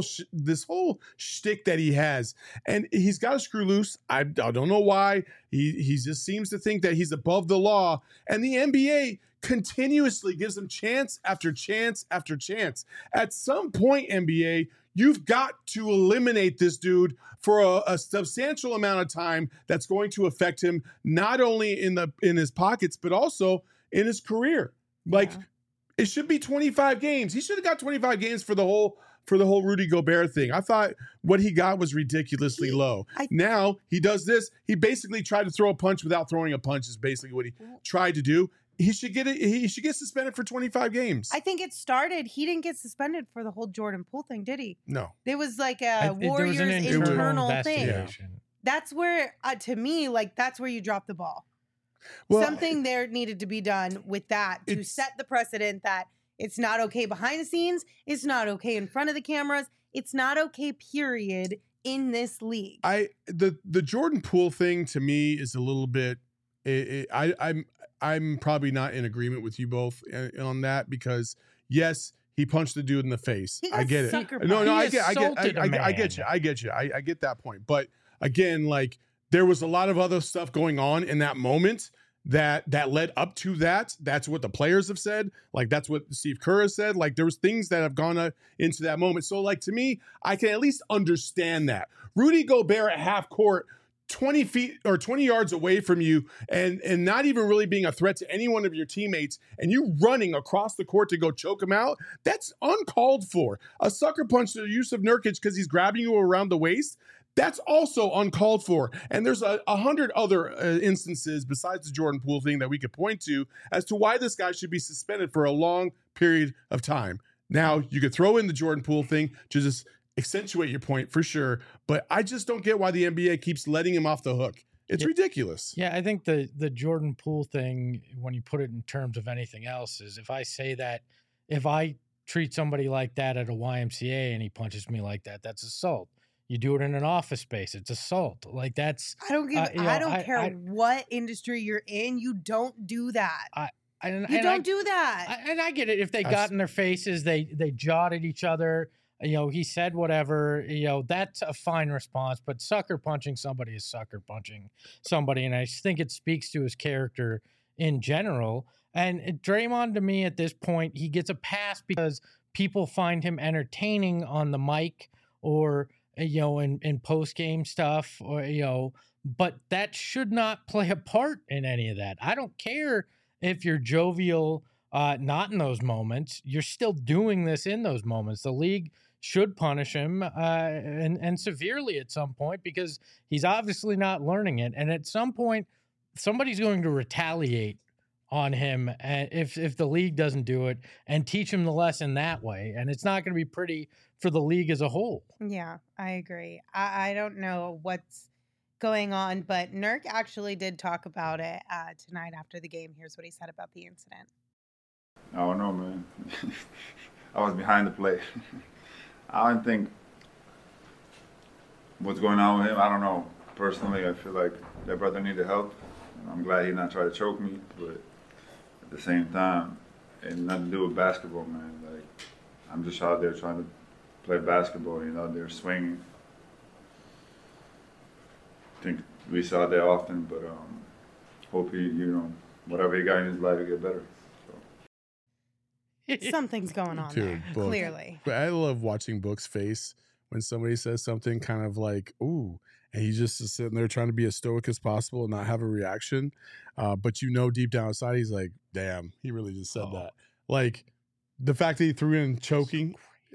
shtick that he has. And he's got to screw loose. I don't know why. He just seems to think that he's above the law. And the NBA continuously gives him chance after chance after chance. At some point, NBA, you've got to eliminate this dude for a substantial amount of time that's going to affect him not only in his pockets, but also in his career. Like, it should be 25 games. He should have got 25 games for the whole Rudy Gobert thing. I thought what he got was ridiculously low. Now he does this. He basically tried to throw a punch without throwing a punch is basically what he tried to do. He should get suspended for 25 games. I think it started. He didn't get suspended for the whole Jordan Poole thing, did he? No. There was like a Warriors internal thing. That's where, to me, like that's where you drop the ball. Well, something there needed to be done with that to set the precedent that it's not okay behind the scenes. It's not okay in front of the cameras. It's not okay, period, in this league. The Jordan Poole thing to me is a little bit. I'm probably not in agreement with you both on that because yes, he punched the dude in the face. I get it. I get you. I get that point. But again, like there was a lot of other stuff going on in that moment that led up to that. That's what the players have said. Like that's what Steve Kerr has said. Like there was things that have gone into that moment. So like to me, I can at least understand that. Rudy Gobert at half court 20 feet or 20 yards away from you and not even really being a threat to any one of your teammates, and you running across the court to go choke him out, that's uncalled for. A sucker punch to Yusuf Nurkic because he's grabbing you around the waist, that's also uncalled for. And there's 100 other instances besides the Jordan Poole thing that we could point to as to why this guy should be suspended for a long period of time. Now, you could throw in the Jordan Poole thing to just accentuate your point for sure, but I just don't get why the NBA keeps letting him off the hook. It's ridiculous. Yeah, I think the Jordan Poole thing, when you put it in terms of anything else, is if I say that, if I treat somebody like that at a YMCA and he punches me like that, that's assault. You do it in an office space, it's assault. Like that's I don't care what industry you're in, you don't do that. You don't do that. And I get it. If they got in their faces, they jawed at each other. He said whatever, that's a fine response, but sucker punching somebody is sucker punching somebody. And I just think it speaks to his character in general. And Draymond, to me, at this point, he gets a pass because people find him entertaining on the mic or, in post-game stuff, or, but that should not play a part in any of that. I don't care if you're jovial, not in those moments. You're still doing this in those moments. The league should punish him and severely at some point because he's obviously not learning it. And at some point, somebody's going to retaliate on him if the league doesn't do it and teach him the lesson that way. And it's not going to be pretty for the league as a whole. Yeah, I agree. I don't know what's going on, but Nurk actually did talk about it tonight after the game. Here's what he said about the incident. I don't know, man. I was behind the play. I don't think what's going on with him, I don't know. Personally, I feel like that brother needed help. I'm glad he not try to choke me, but at the same time, it had nothing to do with basketball, man. Like, I'm just out there trying to play basketball, they're swinging. I think we saw that often, but hope he, whatever he got in his life, to get better. Something's going on there, clearly. But I love watching Book's face when somebody says something kind of like, ooh, and he's just sitting there trying to be as stoic as possible and not have a reaction. But deep down inside, he's like, damn, he really just said that. Like, the fact that he threw in choking,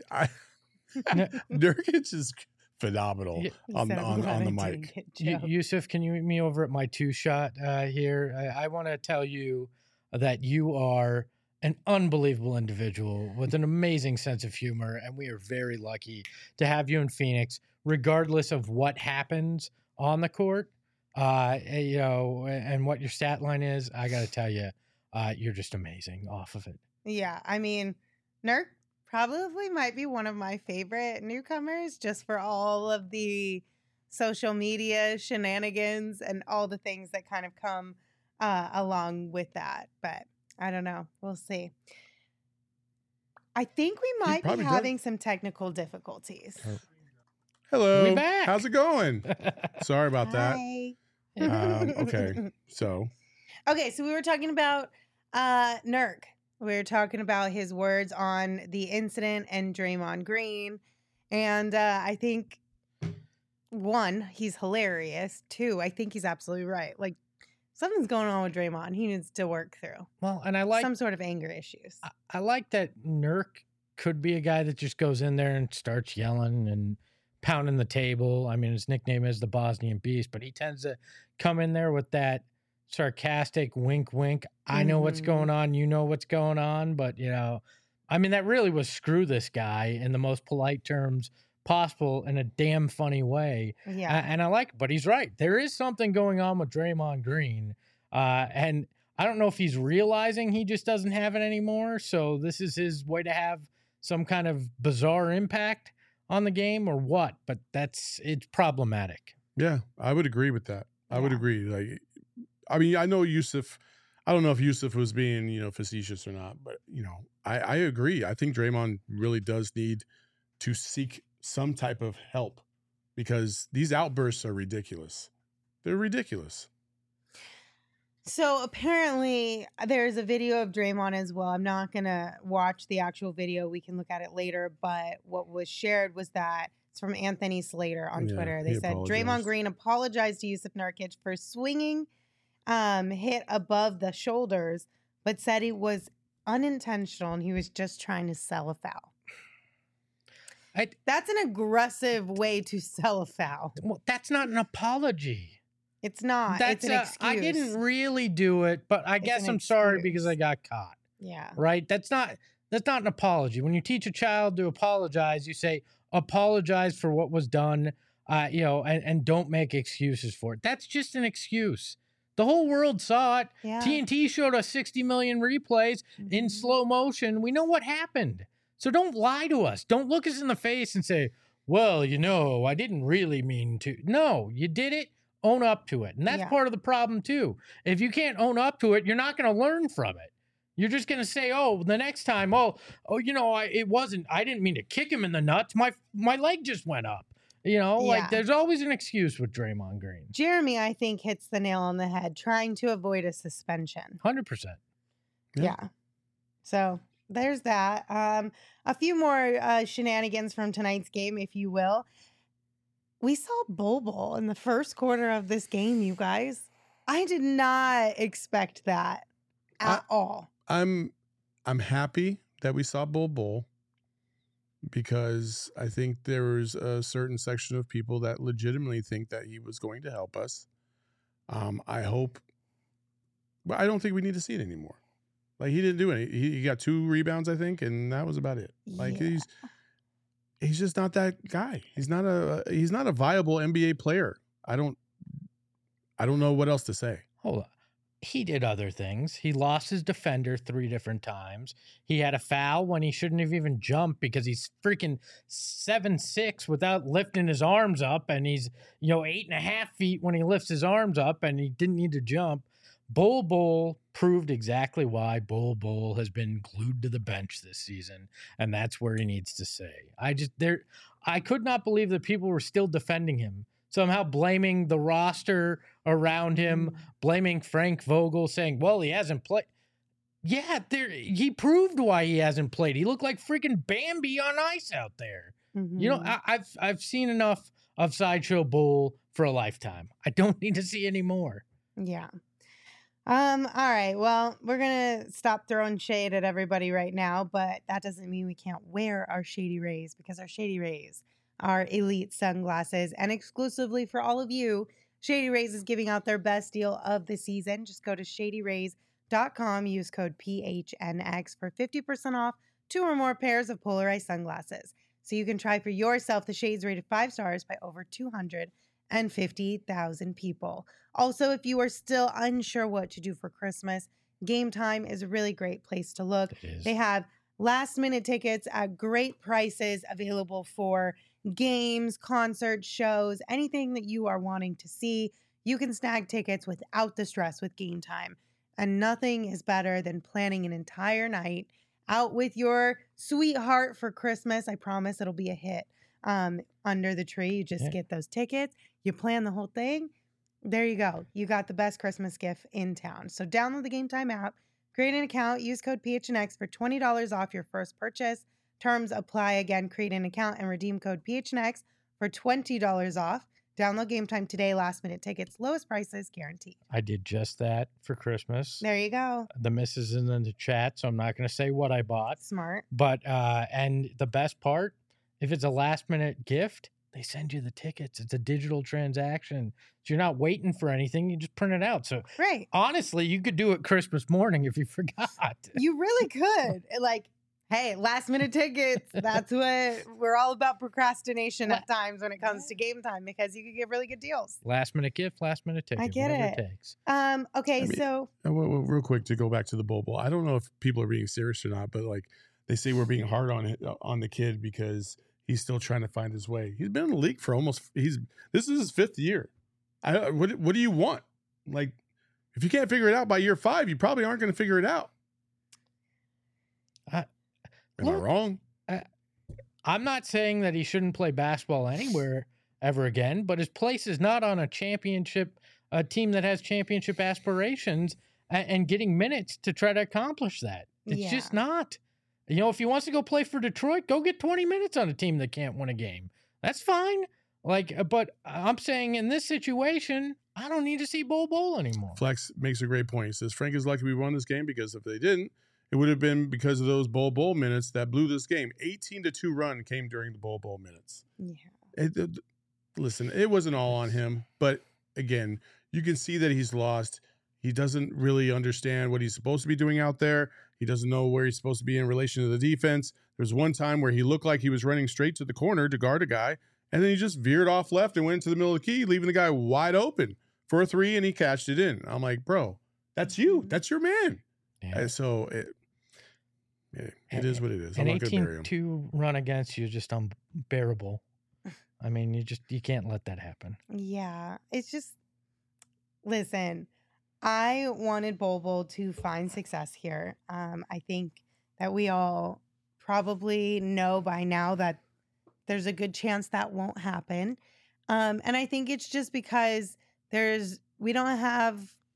Nurkic is phenomenal on the mic. Yusuf, can you meet me over at my two shot here? I want to tell you that you are an unbelievable individual with an amazing sense of humor, and we are very lucky to have you in Phoenix, regardless of what happens on the court, and what your stat line is. I got to tell you, you're just amazing off of it. Yeah, I mean, Nurk probably might be one of my favorite newcomers just for all of the social media shenanigans and all the things that kind of come along with that. But I don't know. We'll see. I think we might be having some technical difficulties. Hello. We back. How's it going? Sorry about Hi. that. Okay. So we were talking about Nurk. We were talking about his words on the incident and Draymond Green. And I think, one, he's hilarious. Two, I think he's absolutely right. Like, something's going on with Draymond. He needs to work through. Well, and I like some sort of anger issues. I like that Nurk could be a guy that just goes in there and starts yelling and pounding the table. I mean, his nickname is the Bosnian Beast, but he tends to come in there with that sarcastic wink, wink. I know what's going on. You know what's going on. But, I mean, that really was screw this guy in the most polite terms possible in a damn funny way. Yeah. And I like it, but he's right. There is something going on with Draymond Green. And I don't know if he's realizing he just doesn't have it anymore. So this is his way to have some kind of bizarre impact on the game or what, but it's problematic. Yeah, I would agree with that. I would agree. Like, I mean, I know Yusuf, I don't know if Yusuf was being, facetious or not, but, I agree. I think Draymond really does need to seek some type of help because these outbursts are ridiculous. They're ridiculous. So apparently there's a video of Draymond as well. I'm not going to watch the actual video. We can look at it later. But what was shared was that It's from Anthony Slater on Yeah, Twitter. They he said Draymond apologized. Green apologized to Yusuf Nurkic for swinging hit above the shoulders, but said it was unintentional and he was just trying to sell a foul. That's an aggressive way to sell a foul. Well, that's not an apology. It's not. That's it's an excuse. I didn't really do it, but I guess an I'm sorry excuse. because I got caught. Yeah. Right? That's not an apology. When you teach a child to apologize, you say apologize for what was done, and don't make excuses for it. That's just an excuse. The whole world saw it. Yeah. TNT showed us 60 million replays in slow motion. We know what happened. So don't lie to us. Don't look us in the face and say, well, I didn't really mean to. No, you did it. Own up to it. And that's part of the problem too. If you can't own up to it, you're not going to learn from it. You're just going to say, oh, the next time, it wasn't, I didn't mean to kick him in the nuts. My leg just went up. There's always an excuse with Draymond Green. Jeremy, I think, hits the nail on the head, trying to avoid a suspension. 100%. Yeah. So there's that. A few more shenanigans from tonight's game, if you will. We saw Bol in the first quarter of this game, you guys. I did not expect that at all. I'm happy that we saw Bol because I think there was a certain section of people that legitimately think that he was going to help us. I hope, but I don't think we need to see it anymore. Like, he didn't do any. He got 2 rebounds, I think, and that was about it. Like, he's just not that guy. He's not a viable NBA player. I don't know what else to say. Hold on. He did other things. He lost his defender 3 different times. He had a foul when he shouldn't have even jumped because he's freaking 7'6" without lifting his arms up. And he's, 8.5 feet when he lifts his arms up, and he didn't need to jump. Bol proved exactly why Bol has been glued to the bench this season. And that's where he needs to stay. I could not believe that people were still defending him. Somehow blaming the roster around him, blaming Frank Vogel, saying, well, he hasn't played. Yeah, he proved why he hasn't played. He looked like freaking Bambi on ice out there. I've seen enough of Sideshow Bol for a lifetime. I don't need to see any more. Yeah. All right. Well, we're going to stop throwing shade at everybody right now, but that doesn't mean we can't wear our Shady Rays, because our Shady Rays are elite sunglasses, and exclusively for all of you, Shady Rays is giving out their best deal of the season. Just go to shadyrays.com, use code PHNX for 50% off 2 or more pairs of polarized sunglasses. So you can try for yourself the shades rated 5 stars by over 250,000 people. Also, if you are still unsure what to do for Christmas, Game Time is a really great place to look. They have last-minute tickets at great prices available for games, concerts, shows, anything that you are wanting to see. You can snag tickets without the stress with Game Time. And nothing is better than planning an entire night out with your sweetheart for Christmas. I promise it'll be a hit. Under the tree, you just get those tickets. You plan the whole thing. There you go. You got the best Christmas gift in town. So download the Game Time app, create an account, use code PHNX for $20 off your first purchase. Terms apply. Again, create an account and redeem code PHNX for $20 off. Download Game Time today. Last minute tickets, lowest prices guaranteed. I did just that for Christmas. There you go. The missus is in the chat, so I'm not going to say what I bought. Smart. But, and the best part, if it's a last minute gift, they send you the tickets. It's a digital transaction. So you're not waiting for anything. You just print it out. So right. Honestly, you could do it Christmas morning if you forgot. You really could. Hey, last minute tickets. That's what we're all about, procrastination at times when it comes to Game Time, because you can get really good deals. Last minute gift, last minute ticket. I get whatever it. Takes. Okay, so real quick to go back to the Bol. I don't know if people are being serious or not, but like they say we're being hard on the kid because he's still trying to find his way. He's been in the league for this is his 5th year. What do you want? Like, if you can't figure it out by year 5, you probably aren't going to figure it out. Am I wrong? I'm not saying that he shouldn't play basketball anywhere ever again, but his place is not on a championship, a team that has championship aspirations and getting minutes to try to accomplish that. It's just not. If he wants to go play for Detroit, go get 20 minutes on a team that can't win a game. That's fine. Like, but I'm saying in this situation, I don't need to see Bol anymore. Flex makes a great point. He says, Frank is lucky we won this game because if they didn't, it would have been because of those Bol minutes that blew this game. 18-2 run came during the Bol minutes. Yeah. Listen, it wasn't all on him, but again, you can see that he's lost. He doesn't really understand what he's supposed to be doing out there. He doesn't know where he's supposed to be in relation to the defense. There's one time where he looked like he was running straight to the corner to guard a guy, and then he just veered off left and went into the middle of the key, leaving the guy wide open for a three, and he catched it in. I'm like, bro, that's you. That's your man. Yeah. So it is what it is. An I'm not going to bury him. 18-2 run against you is just unbearable. I mean, you can't let that happen. Yeah. It's just, listen, I wanted Bol to find success here. I think that we all probably know by now that there's a good chance that won't happen. And I think it's just because we don't have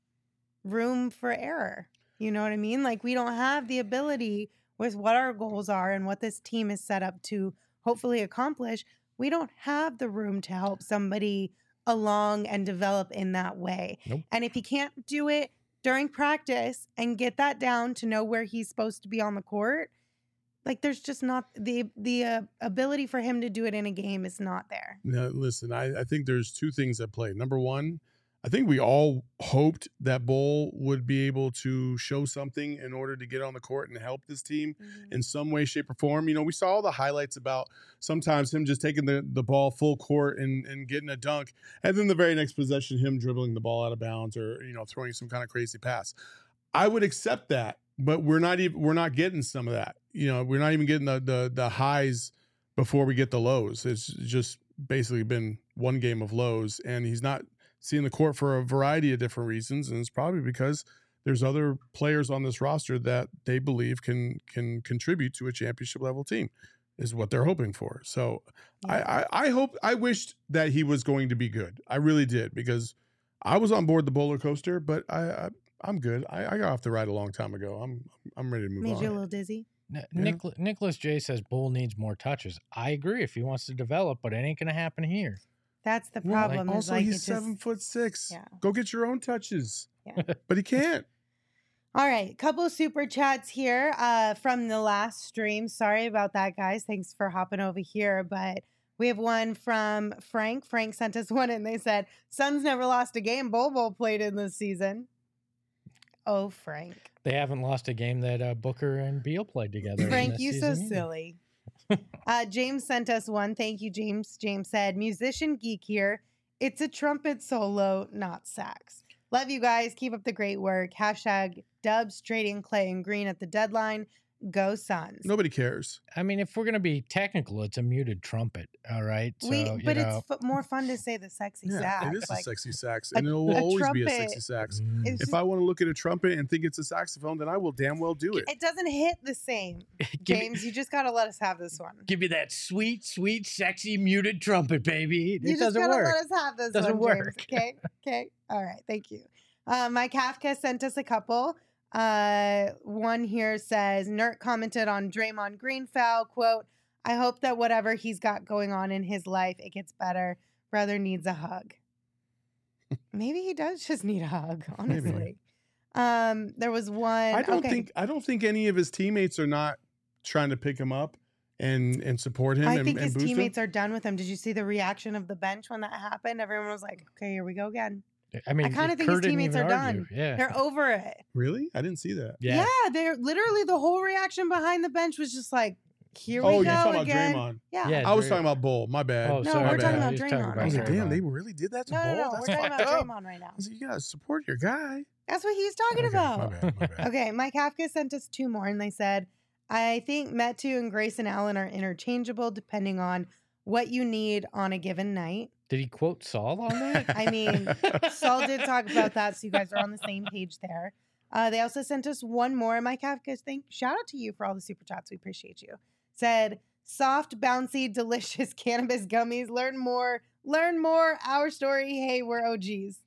room for error. You know what I mean? Like, we don't have the ability with what our goals are and what this team is set up to hopefully accomplish. We don't have the room to help somebody along and develop in that way. Nope. And if he can't do it during practice and get that down to know where he's supposed to be on the court, like, there's just not the ability for him to do it in a game is not there. Now, listen, I think there's two things at play. Number one, I think we all hoped that Bol would be able to show something in order to get on the court and help this team in some way, shape, or form. You know, we saw all the highlights about sometimes him just taking the ball full court and getting a dunk, and then the very next possession, him dribbling the ball out of bounds or, you know, throwing some kind of crazy pass. I would accept that, but we're not getting some of that. You know, we're not even getting the highs before we get the lows. It's just basically been one game of lows, and he's not seeing the court for a variety of different reasons, and it's probably because there's other players on this roster that they believe can contribute to a championship level team, is what they're hoping for. So Yeah. I wished that he was going to be good. I really did, because I was on board the roller coaster, but I'm good. I got off the ride a long time ago. I'm ready to move Made on. you a little dizzy. Nicholas J says Bol needs more touches. I agree if he wants to develop, but it ain't going to happen here. That's the Well, problem. is, also, like, he's it just- 7'6". Yeah. Go get your own touches. Yeah. But he can't. All right, couple super chats here from the last stream. Sorry about that, guys. Thanks for hopping over here. But we have one from Frank. Frank sent us one, and they said, Suns never lost a game Bol played in this season. Oh, Frank. They haven't lost a game that Booker and Beal played together. in Frank, this you so season either. silly. James sent us one. Thank you, James. James said, musician geek here. It's a trumpet solo, not sax. Love you guys. Keep up the great work. Hashtag Dubs trading Clay and Green at the deadline. Go Suns. Nobody cares. I mean, if we're going to be technical, it's a muted trumpet. All right. So, But it's more fun to say the sexy sax. It is like, a sexy sax, a- and it will a always be a trumpet- sexy sax. it's If just- I want to look at a trumpet and think it's a saxophone, then I will damn well do it. it doesn't hit the same. Give me- James, you just got to let us have this one. Give me that sweet, sweet, sexy muted trumpet, baby. You It just doesn't gotta work. let us have this Doesn't one, work. James. Okay. Okay. All right. Thank you. Mike Kafka sent us a couple. One here says, Nert commented on Draymond Green foul, quote, I hope that whatever he's got going on in his life, it gets better. Brother needs a hug. Maybe he does just need a hug, honestly. There was one. I don't think any of his teammates are not trying to pick him up and support him. I and, think and his boost teammates him. are done with him. Did you see the reaction of the bench when that happened? Everyone was like, okay, here we go again. I mean, I kinda think Kerr his didn't teammates even are argue. done. Yeah. They're over it. Really? I didn't see that. Yeah, they're literally the whole reaction behind the bench was just like, here we Oh, go you're talking again. about Draymond. Yeah. Yeah. I was Dray- talking about Bull. My bad. Oh, No, sorry. we're My talking bad. about He's talking Draymond. I was like, Draymond. damn, they really did that to No, Bull? no, That's we're talking fucked about up. Draymond right now. I was like, you gotta support your guy. That's what he's talking Okay, about. My bad. Okay, Mike Kafka sent us two more, and they said, I think Metu and Grayson Allen are interchangeable depending on what you need on a given night. Did he quote Saul on that? I mean, Saul did talk about that, so you guys are on the same page there. They also sent us one more. Mike Kafka, shout out to you for all the super chats. We appreciate you. Said, soft, bouncy, delicious cannabis gummies. Learn more. Our story. Hey, we're OGs.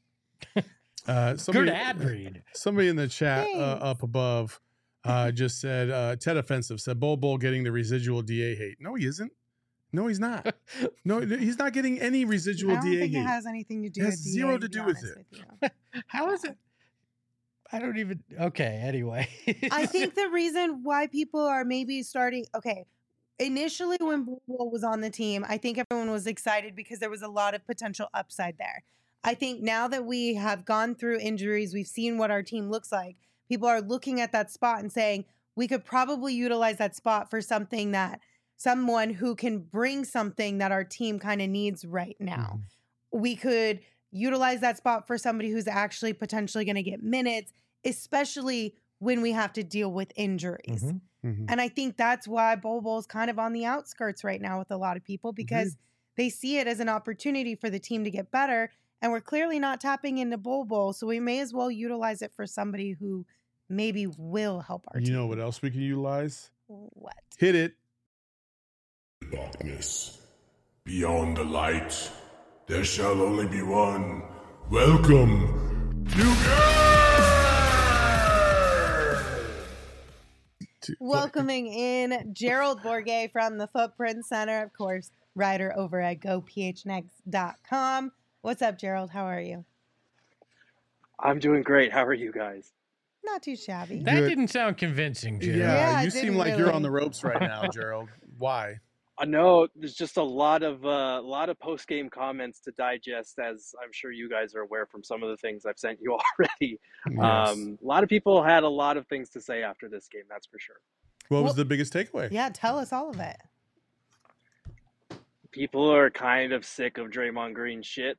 Good ad read. Somebody in the chat Thanks. up above just said, Ted Offensive said, Bull getting the residual DA hate. No, he isn't. No, he's not. No, he's not getting any residual I don't DA think heat. it has anything to do It with has DA, zero to to be do with honest it. with you. How is it? I don't even. Okay. Anyway, I think the reason why people are maybe starting, okay, initially when Bull was on the team, I think everyone was excited because there was a lot of potential upside there. I think now that we have gone through injuries, we've seen what our team looks like, people are looking at that spot and saying, we could probably utilize that spot for something that someone who can bring something that our team kind of needs right now. We could utilize that spot for somebody who's actually potentially going to get minutes, especially when we have to deal with injuries. Mhm. And I think that's why Bobo's kind of on the outskirts right now with a lot of people because they see it as an opportunity for the team to get better. And we're clearly not tapping into Bobo. So we may as well utilize it for somebody who maybe will help our You team. know what else we can utilize? What? Hit it. Darkness. Beyond the light, there shall only be one. Welcome to Welcoming in Gerald Bourget from the Footprint Center, of course, writer over at GoPHNX.com. What's up, Gerald? How are you? I'm doing great. How are you guys? Not too shabby. that Good. didn't sound convincing, Jared. Yeah, you it seem didn't like you're on really. the ropes right now, Gerald. Why? I know there's just a lot of post game comments to digest, as I'm sure you guys are aware from some of the things I've sent you already. Yes. A lot of people had a lot of things to say after this game. That's for sure. What was Well- the biggest takeaway? Yeah, tell us all of it. People are kind of sick of Draymond Green shit.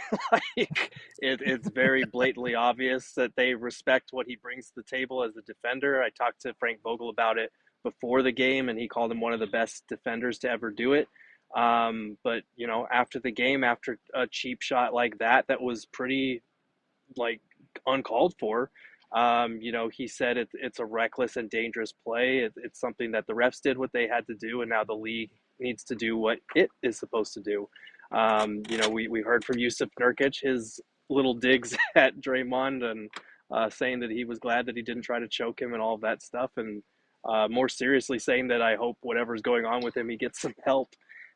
It's very blatantly obvious that they respect what he brings to the table as a defender. I talked to Frank Vogel about it before the game, and he called him one of the best defenders to ever do it. But you know, after the game, after a cheap shot like that was pretty like uncalled for. You know, he said it's a reckless and dangerous play. It's something that the refs did what they had to do, and now the league needs to do what it is supposed to do. You know, we heard from Yusuf Nurkic, his little digs at Draymond and saying that he was glad that he didn't try to choke him and all of that stuff. And more seriously saying that I hope whatever's going on with him, he gets some help.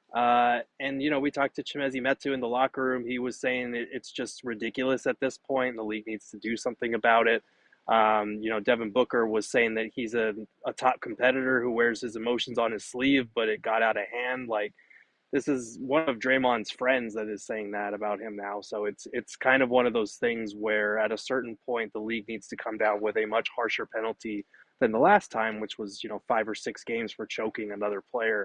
And, you know, we talked to Chimezi Metu in the locker room. He was saying it's just ridiculous at this point. The league needs to do something about it. You know, Devin Booker was saying that he's a top competitor who wears his emotions on his sleeve, but it got out of hand. Like, this is one of Draymond's friends that is saying that about him now. So it's kind of one of those things where at a certain point, the league needs to come down with a much harsher penalty than the last time, which was, you know, 5 or 6 games for choking another player.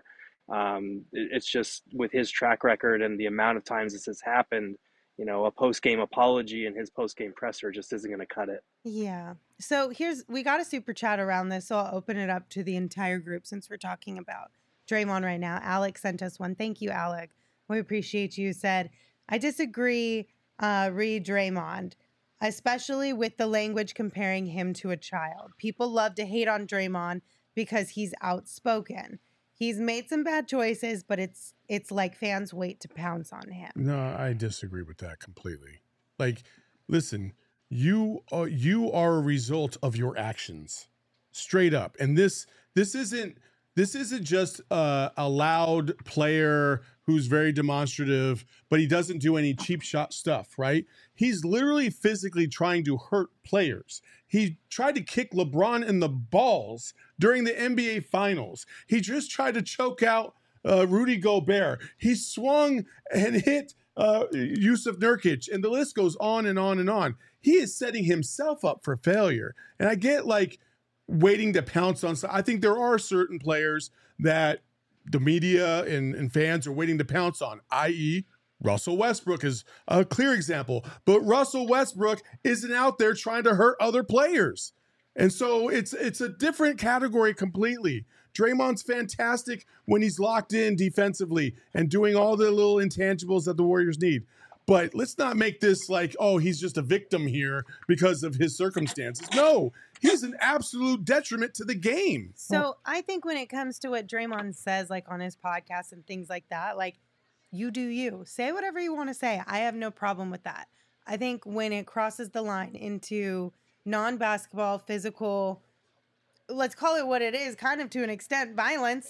It's just with his track record and the amount of times this has happened, you know, a post-game apology and his post-game presser just isn't going to cut it. Yeah. So we got a super chat around this, so I'll open it up to the entire group since we're talking about Draymond right now. Alec sent us one. Thank you, Alec. We appreciate you. Said, I disagree, read Draymond, especially with the language comparing him to a child. People love to hate on Draymond because he's outspoken. He's made some bad choices, but it's like fans wait to pounce on him. No, I disagree with that completely. Like, listen, you are a result of your actions, straight up. And this isn't just a loud player who's very demonstrative, but he doesn't do any cheap shot stuff, right? He's literally physically trying to hurt players. He tried to kick LeBron in the balls during the NBA Finals. He just tried to choke out Rudy Gobert. He swung and hit Yusuf Nurkic, and the list goes on and on and on. He is setting himself up for failure. And I get like waiting to pounce on. I think there are certain players that the media and fans are waiting to pounce on, i.e., Russell Westbrook is a clear example. But Russell Westbrook isn't out there trying to hurt other players. And so it's a different category completely. Draymond's fantastic when he's locked in defensively and doing all the little intangibles that the Warriors need. But let's not make this like, oh, he's just a victim here because of his circumstances. No, he's an absolute detriment to the game. So I think when it comes to what Draymond says, like on his podcast and things like that, like, you do you. Say whatever you want to say. I have no problem with that. I think when it crosses the line into non-basketball, physical, let's call it what it is, kind of to an extent, violence,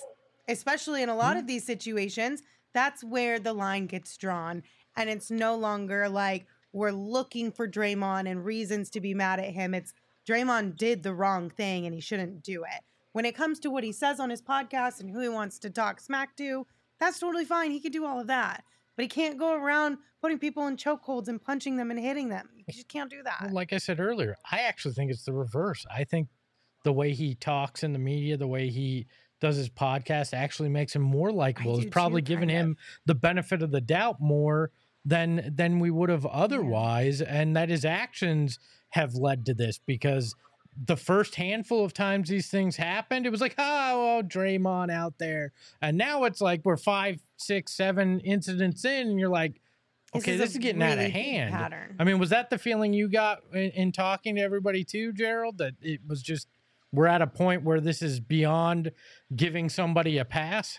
especially in a lot of these situations, that's where the line gets drawn. And it's no longer like we're looking for Draymond and reasons to be mad at him. It's Draymond did the wrong thing and he shouldn't do it. When it comes to what he says on his podcast and who he wants to talk smack to, that's totally fine. He can do all of that. But he can't go around putting people in chokeholds and punching them and hitting them. You just can't do that. Well, like I said earlier, I actually think it's the reverse. I think the way he talks in the media, the way he does his podcast actually makes him more likable. It's probably giving him the benefit of the doubt more than we would have otherwise. Yeah. And that his actions have led to this, because the first handful of times these things happened, it was like, oh, Draymond out there. And now it's like we're 5, 6, 7 incidents in, and you're like, okay, this is getting really out of hand. Pattern. I mean, was that the feeling you got in talking to everybody too, Gerald, that it was just, we're at a point where this is beyond giving somebody a pass?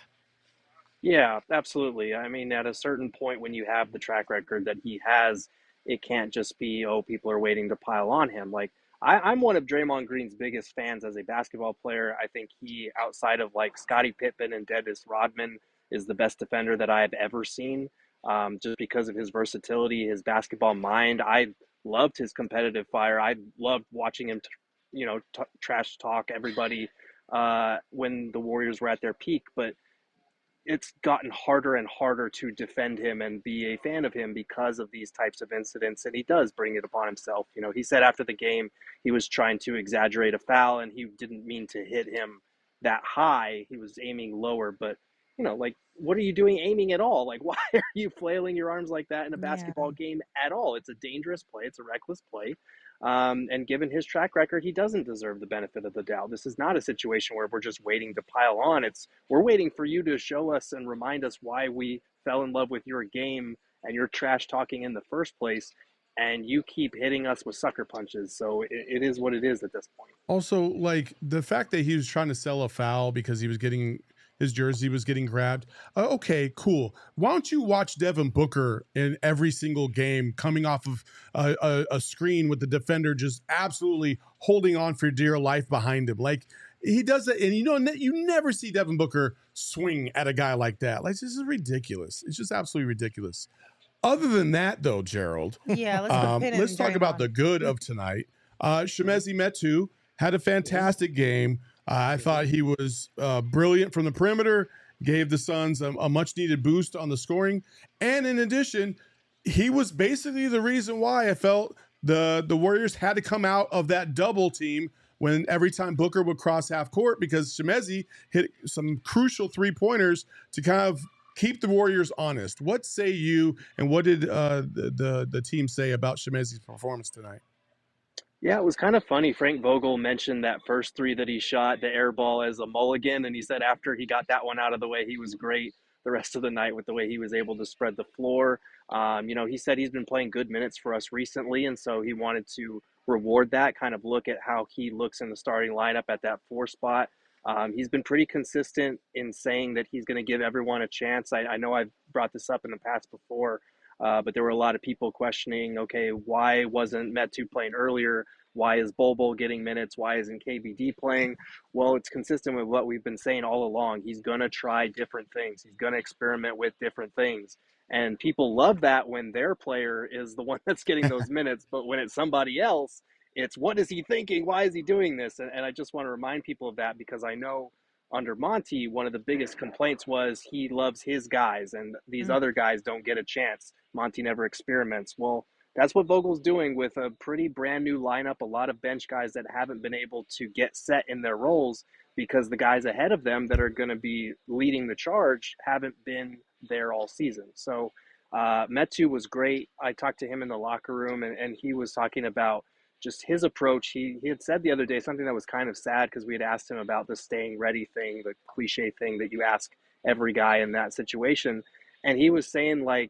Yeah, absolutely. I mean, at a certain point when you have the track record that he has, it can't just be, oh, people are waiting to pile on him. Like, I'm one of Draymond Green's biggest fans as a basketball player. I think he, outside of like Scottie Pippen and Dennis Rodman, is the best defender that I have ever seen, just because of his versatility, his basketball mind. I loved his competitive fire. I loved watching him, trash talk everybody when the Warriors were at their peak. But it's gotten harder and harder to defend him and be a fan of him because of these types of incidents. And he does bring it upon himself. He said after the game, he was trying to exaggerate a foul and he didn't mean to hit him that high. He was aiming lower, but like, what are you doing aiming at all? Like, why are you flailing your arms like that in a basketball game at all? It's a dangerous play. It's a reckless play. And given his track record, he doesn't deserve the benefit of the doubt. This is not a situation where we're just waiting to pile on. We're waiting for you to show us and remind us why we fell in love with your game and your trash talking in the first place. And you keep hitting us with sucker punches. So it is what it is at this point. Also, like the fact that he was trying to sell a foul because he was getting his jersey was getting grabbed. Okay, cool. Why don't you watch Devin Booker in every single game coming off of a screen with the defender just absolutely holding on for dear life behind him? Like, he does it, and you never see Devin Booker swing at a guy like that. Like, this is ridiculous. It's just absolutely ridiculous. Other than that, though, Gerald, let's talk about the good of tonight. Chimezie Metu had a fantastic game. I thought he was brilliant from the perimeter, gave the Suns a much-needed boost on the scoring. And in addition, he was basically the reason why I felt the Warriors had to come out of that double team when every time Booker would cross half court, because Chimezie hit some crucial three-pointers to kind of keep the Warriors honest. What say you, and what did the team say about Chimezie's performance tonight? Yeah, it was kind of funny. Frank Vogel mentioned that first three that he shot, the air ball, as a mulligan. And he said after he got that one out of the way, he was great the rest of the night with the way he was able to spread the floor. He said he's been playing good minutes for us recently. And so he wanted to reward that, kind of look at how he looks in the starting lineup at that 4 spot. He's been pretty consistent in saying that he's going to give everyone a chance. I know I've brought this up in the past before. But there were a lot of people questioning, okay, why wasn't Metu playing earlier? Why is Bol Bol getting minutes? Why isn't KBD playing? Well, it's consistent with what we've been saying all along. He's going to try different things. He's going to experiment with different things. And people love that when their player is the one that's getting those minutes. But when it's somebody else, it's what is he thinking? Why is he doing this? And I just want to remind people of that, because I know under Monty, one of the biggest complaints was he loves his guys and these other guys don't get a chance. Monty never experiments. Well, that's what Vogel's doing with a pretty brand new lineup, a lot of bench guys that haven't been able to get set in their roles because the guys ahead of them that are going to be leading the charge haven't been there all season. So Metu was great. I talked to him in the locker room and he was talking about just his approach. He had said the other day something that was kind of sad, because we had asked him about the staying ready thing, the cliche thing that you ask every guy in that situation. And he was saying, like,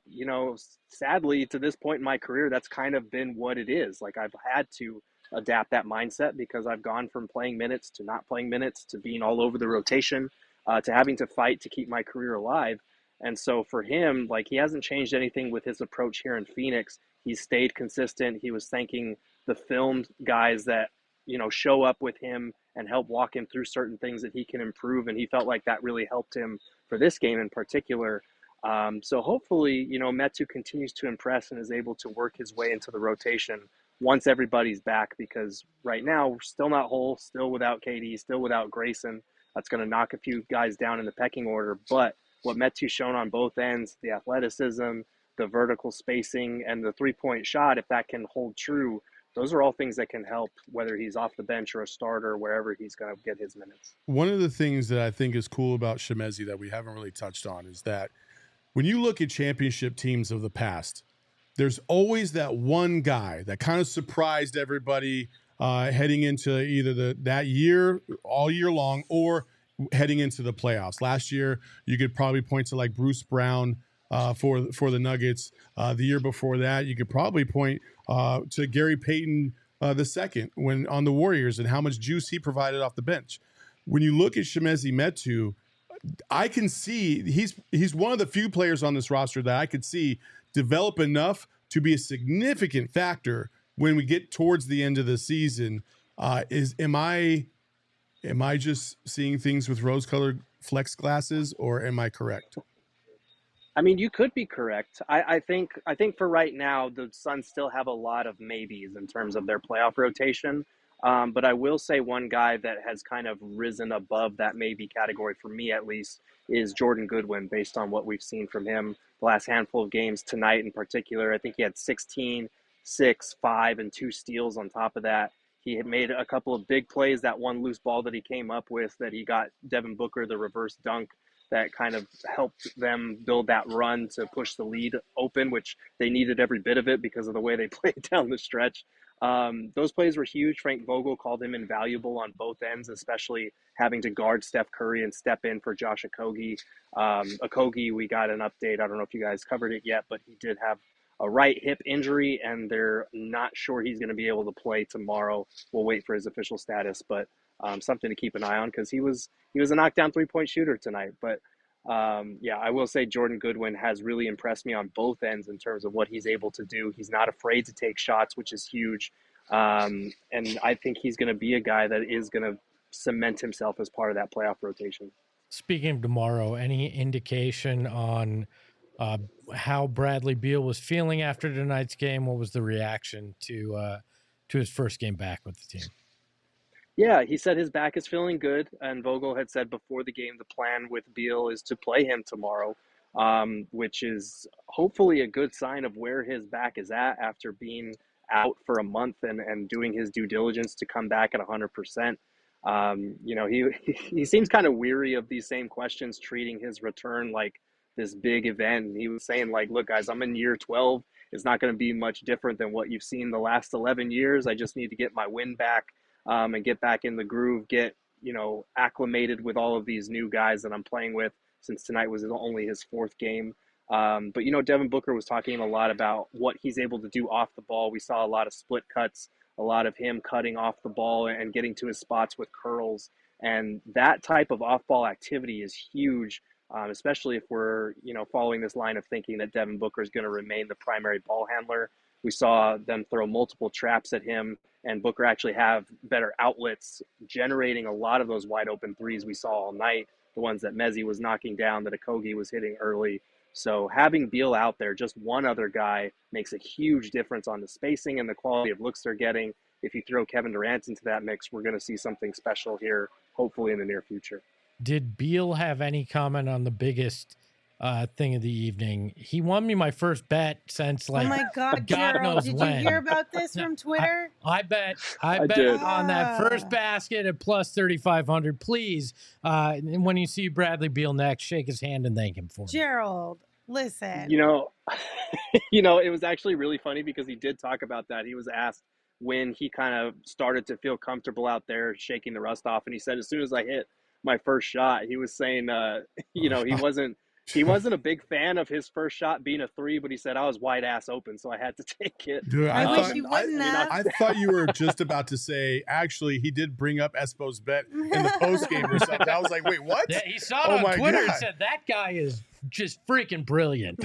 sadly, to this point in my career, that's kind of been what it is. Like, I've had to adapt that mindset because I've gone from playing minutes to not playing minutes to being all over the rotation to having to fight to keep my career alive. And so for him, like, he hasn't changed anything with his approach here in Phoenix. He's stayed consistent. He was thanking the film guys that show up with him and help walk him through certain things that he can improve. And he felt like that really helped him for this game in particular. So hopefully, Metu continues to impress and is able to work his way into the rotation once everybody's back, because right now we're still not whole, still without KD, still without Grayson. That's going to knock a few guys down in the pecking order. But what Metu's shown on both ends, the athleticism, the vertical spacing, and the three-point shot, if that can hold true, those are all things that can help, whether he's off the bench or a starter, wherever he's going to get his minutes. One of the things that I think is cool about Chimezie that we haven't really touched on is that when you look at championship teams of the past, there's always that one guy that kind of surprised everybody heading into either that year, all year long, or heading into the playoffs. Last year, you could probably point to like Bruce Brown for the Nuggets. The year before that, you could probably point to Gary Payton II when on the Warriors and how much juice he provided off the bench. When you look at Chimezie Metu, I can see he's one of the few players on this roster that I could see develop enough to be a significant factor when we get towards the end of the season. Am I just seeing things with rose-colored flex glasses, or am I correct? I mean, you could be correct. I think for right now, the Suns still have a lot of maybes in terms of their playoff rotation. But I will say one guy that has kind of risen above that maybe category, for me at least, is Jordan Goodwin, based on what we've seen from him the last handful of games, tonight in particular. I think he had 16, 6, 5, and 2 steals on top of that. He had made a couple of big plays, that one loose ball that he came up with that he got Devin Booker, the reverse dunk, that kind of helped them build that run to push the lead open, which they needed every bit of it because of the way they played down the stretch. Those plays were huge. Frank Vogel called him invaluable on both ends, especially having to guard Steph Curry and step in for Josh Okogie. Okogie, we got an update. I don't know if you guys covered it yet, but he did have a right hip injury, and they're not sure he's going to be able to play tomorrow. We'll wait for his official status, but something to keep an eye on, because he was a knockdown three-point shooter tonight. But yeah, I will say Jordan Goodwin has really impressed me on both ends in terms of what he's able to do. He's not afraid to take shots, which is huge. And I think he's going to be a guy that is going to cement himself as part of that playoff rotation. Speaking of tomorrow, any indication on how Bradley Beal was feeling after tonight's game? What was the reaction to his first game back with the team? Yeah, he said his back is feeling good, and Vogel had said before the game the plan with Beal is to play him tomorrow, which is hopefully a good sign of where his back is at after being out for a month and doing his due diligence to come back at 100%. He seems kind of weary of these same questions, treating his return like this big event. And he was saying, like, look, guys, I'm in year 12. It's not going to be much different than what you've seen the last 11 years. I just need to get my wind back. And get back in the groove, get, acclimated with all of these new guys that I'm playing with, since tonight was only his 4th game. But, Devin Booker was talking a lot about what he's able to do off the ball. We saw a lot of split cuts, a lot of him cutting off the ball and getting to his spots with curls. And that type of off-ball activity is huge, especially if we're, following this line of thinking that Devin Booker is going to remain the primary ball handler. We saw them throw multiple traps at him, and Booker actually have better outlets, generating a lot of those wide open threes we saw all night, the ones that Mezzi was knocking down, that Okogie was hitting early. So having Beal out there, just one other guy, makes a huge difference on the spacing and the quality of looks they're getting. If you throw Kevin Durant into that mix, we're going to see something special here, hopefully in the near future. Did Beal have any comment on the biggest thing of the evening? He won me my first bet since, like, oh my God, God Gerald, knows did when. you hear about this from Twitter? I bet did. on that first basket at plus 3,500. Please, when you see Bradley Beal next, shake his hand and thank him for it. Gerald, listen. It was actually really funny because he did talk about that. He was asked when he kind of started to feel comfortable out there shaking the rust off, and he said, as soon as I hit my first shot, he was saying, he wasn't a big fan of his first shot being a 3, but he said, I was wide ass open, so I had to take it. Dude, I wish you wouldn't have. I thought you were just about to say, actually, he did bring up Espo's bet in the post game or something. I was like, wait, what? Yeah, he saw it on Twitter and said, that guy is just freaking brilliant.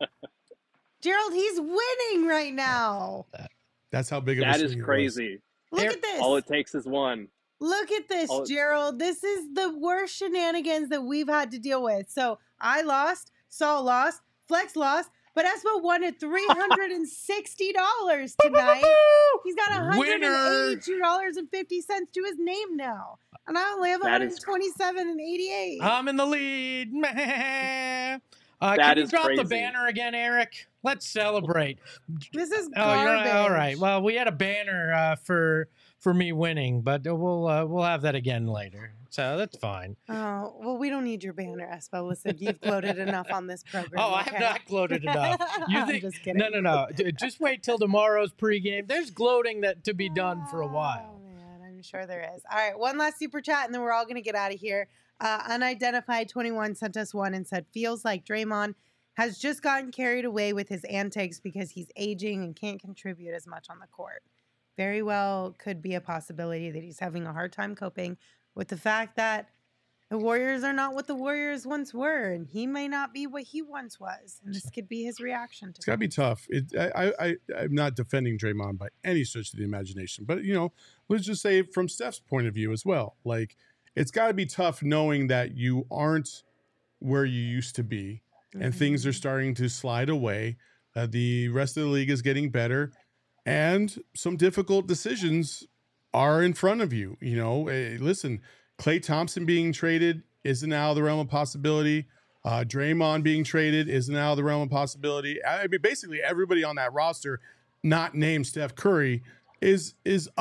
Gerald, he's winning right now. That's how big of a That swing is it crazy. Look at this. All it takes is one. Look at this, Gerald. This is the worst shenanigans that we've had to deal with. So I lost, Saul lost, Flex lost, but Espo won at $360 tonight. He's got $182.50 to his name now. And I only have $127.88. I'm in the lead. Can you drop the banner again, Eric? Let's celebrate. This is garbage. Oh, all right. Well, we had a banner for me winning, but we'll have that again later. So that's fine. Oh, well, we don't need your banner, Espo. Listen, you've gloated enough on this program. Oh, I have not gloated enough. You think? I'm just kidding. No. Just wait till tomorrow's pregame. There's gloating to be done for a while. Oh, man, I'm sure there is. All right, one last super chat, and then we're all going to get out of here. Unidentified 21 sent us one and said, feels like Draymond has just gotten carried away with his antics because he's aging and can't contribute as much on the court. Very well could be a possibility that he's having a hard time coping with the fact that the Warriors are not what the Warriors once were, and he may not be what he once was. And this could be his reaction to it. It's got to be tough. I'm not defending Draymond by any stretch of the imagination, but, let's just say from Steph's point of view as well. Like, it's got to be tough knowing that you aren't where you used to be and things are starting to slide away. The rest of the league is getting better, and some difficult decisions are in front of you. Listen, Klay Thompson being traded isn't out of the realm of possibility. Draymond being traded isn't out of the realm of possibility. I mean, basically everybody on that roster, not named Steph Curry, is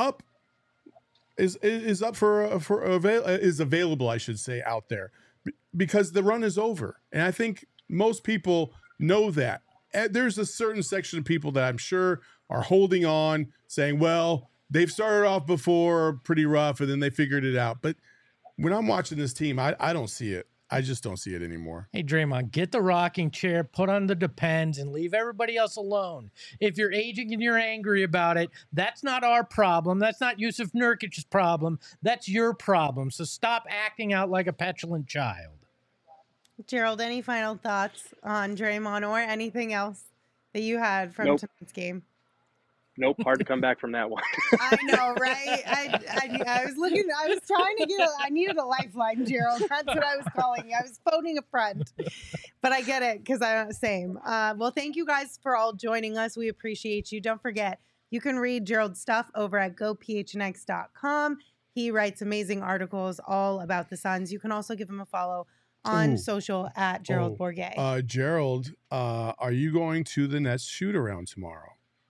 available, I should say, out there because the run is over. And I think most people know that. There's a certain section of people that I'm sure are holding on, saying, well, they've started off before pretty rough and then they figured it out. But when I'm watching this team, I don't see it. I just don't see it anymore. Hey, Draymond, get the rocking chair, put on the Depends, and leave everybody else alone. If you're aging and you're angry about it, that's not our problem. That's not Yusuf Nurkic's problem. That's your problem. So stop acting out like a petulant child. Gerald, any final thoughts on Draymond or anything else that you had from tonight's game? Nope, hard to come back from that one. I know, right? I was trying to I needed a lifeline, Gerald. That's what I was calling you. I was phoning a friend. But I get it because I'm the same. Well, thank you guys for all joining us. We appreciate you. Don't forget, you can read Gerald's stuff over at gophnx.com. He writes amazing articles all about the Suns. You can also give him a follow on social at Gerald Bourguet. Gerald, are you going to the Nets shoot around tomorrow?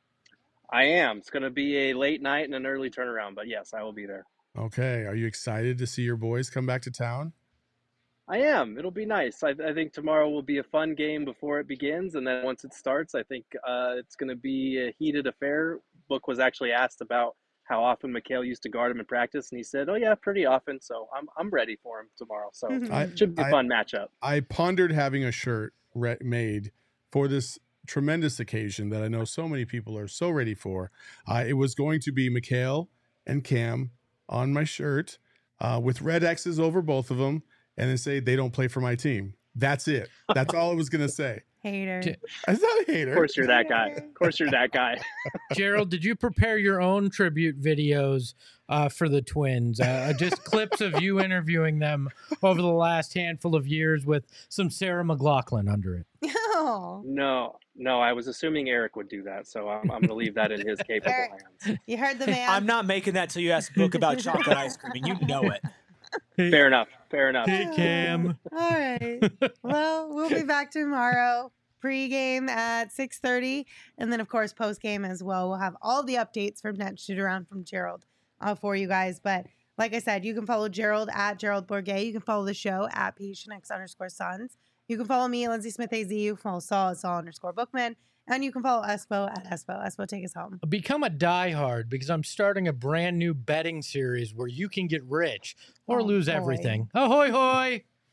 I am. It's going to be a late night and an early turnaround, but yes, I will be there. Okay. Are you excited to see your boys come back to town? I am. It'll be nice. I think tomorrow will be a fun game before it begins, and then once it starts, I think it's going to be a heated affair. Book was actually asked about how often Mikal used to guard him in practice, and he said, "Oh yeah, pretty often." So I'm ready for him tomorrow. So it should be a fun matchup. I pondered having a shirt made for this tremendous occasion that I know so many people are so ready for. It was going to be Mikal and Cam on my shirt with red X's over both of them, and then say they don't play for my team. That's it. That's all I was going to say. Hater. I'm not a hater. Of course you're that guy. Of course you're that guy. Gerald, did you prepare your own tribute videos for the Twins? Just clips of you interviewing them over the last handful of years with some Sarah McLachlan under it. Oh. No, I was assuming Eric would do that, so I'm going to leave that in his capable hands. You heard the man. I'm not making that till you ask Book about chocolate ice cream, and you know it. Fair enough. Hey, Cam. All right. Well, we'll be back tomorrow. Pre-game at 6:30, and then, of course, post-game as well. We'll have all the updates from Net Shoot Around from Gerald for you guys. But like I said, you can follow Gerald at Gerald Bourguet. You can follow the show at PHNX_Suns. You can follow me, Lindsay Smith AZ. You can follow Saul at Saul_Bookman. And you can follow Espo at Espo. Espo, take us home. Become a diehard because I'm starting a brand new betting series where you can get rich or lose everything. Ahoy, hoy!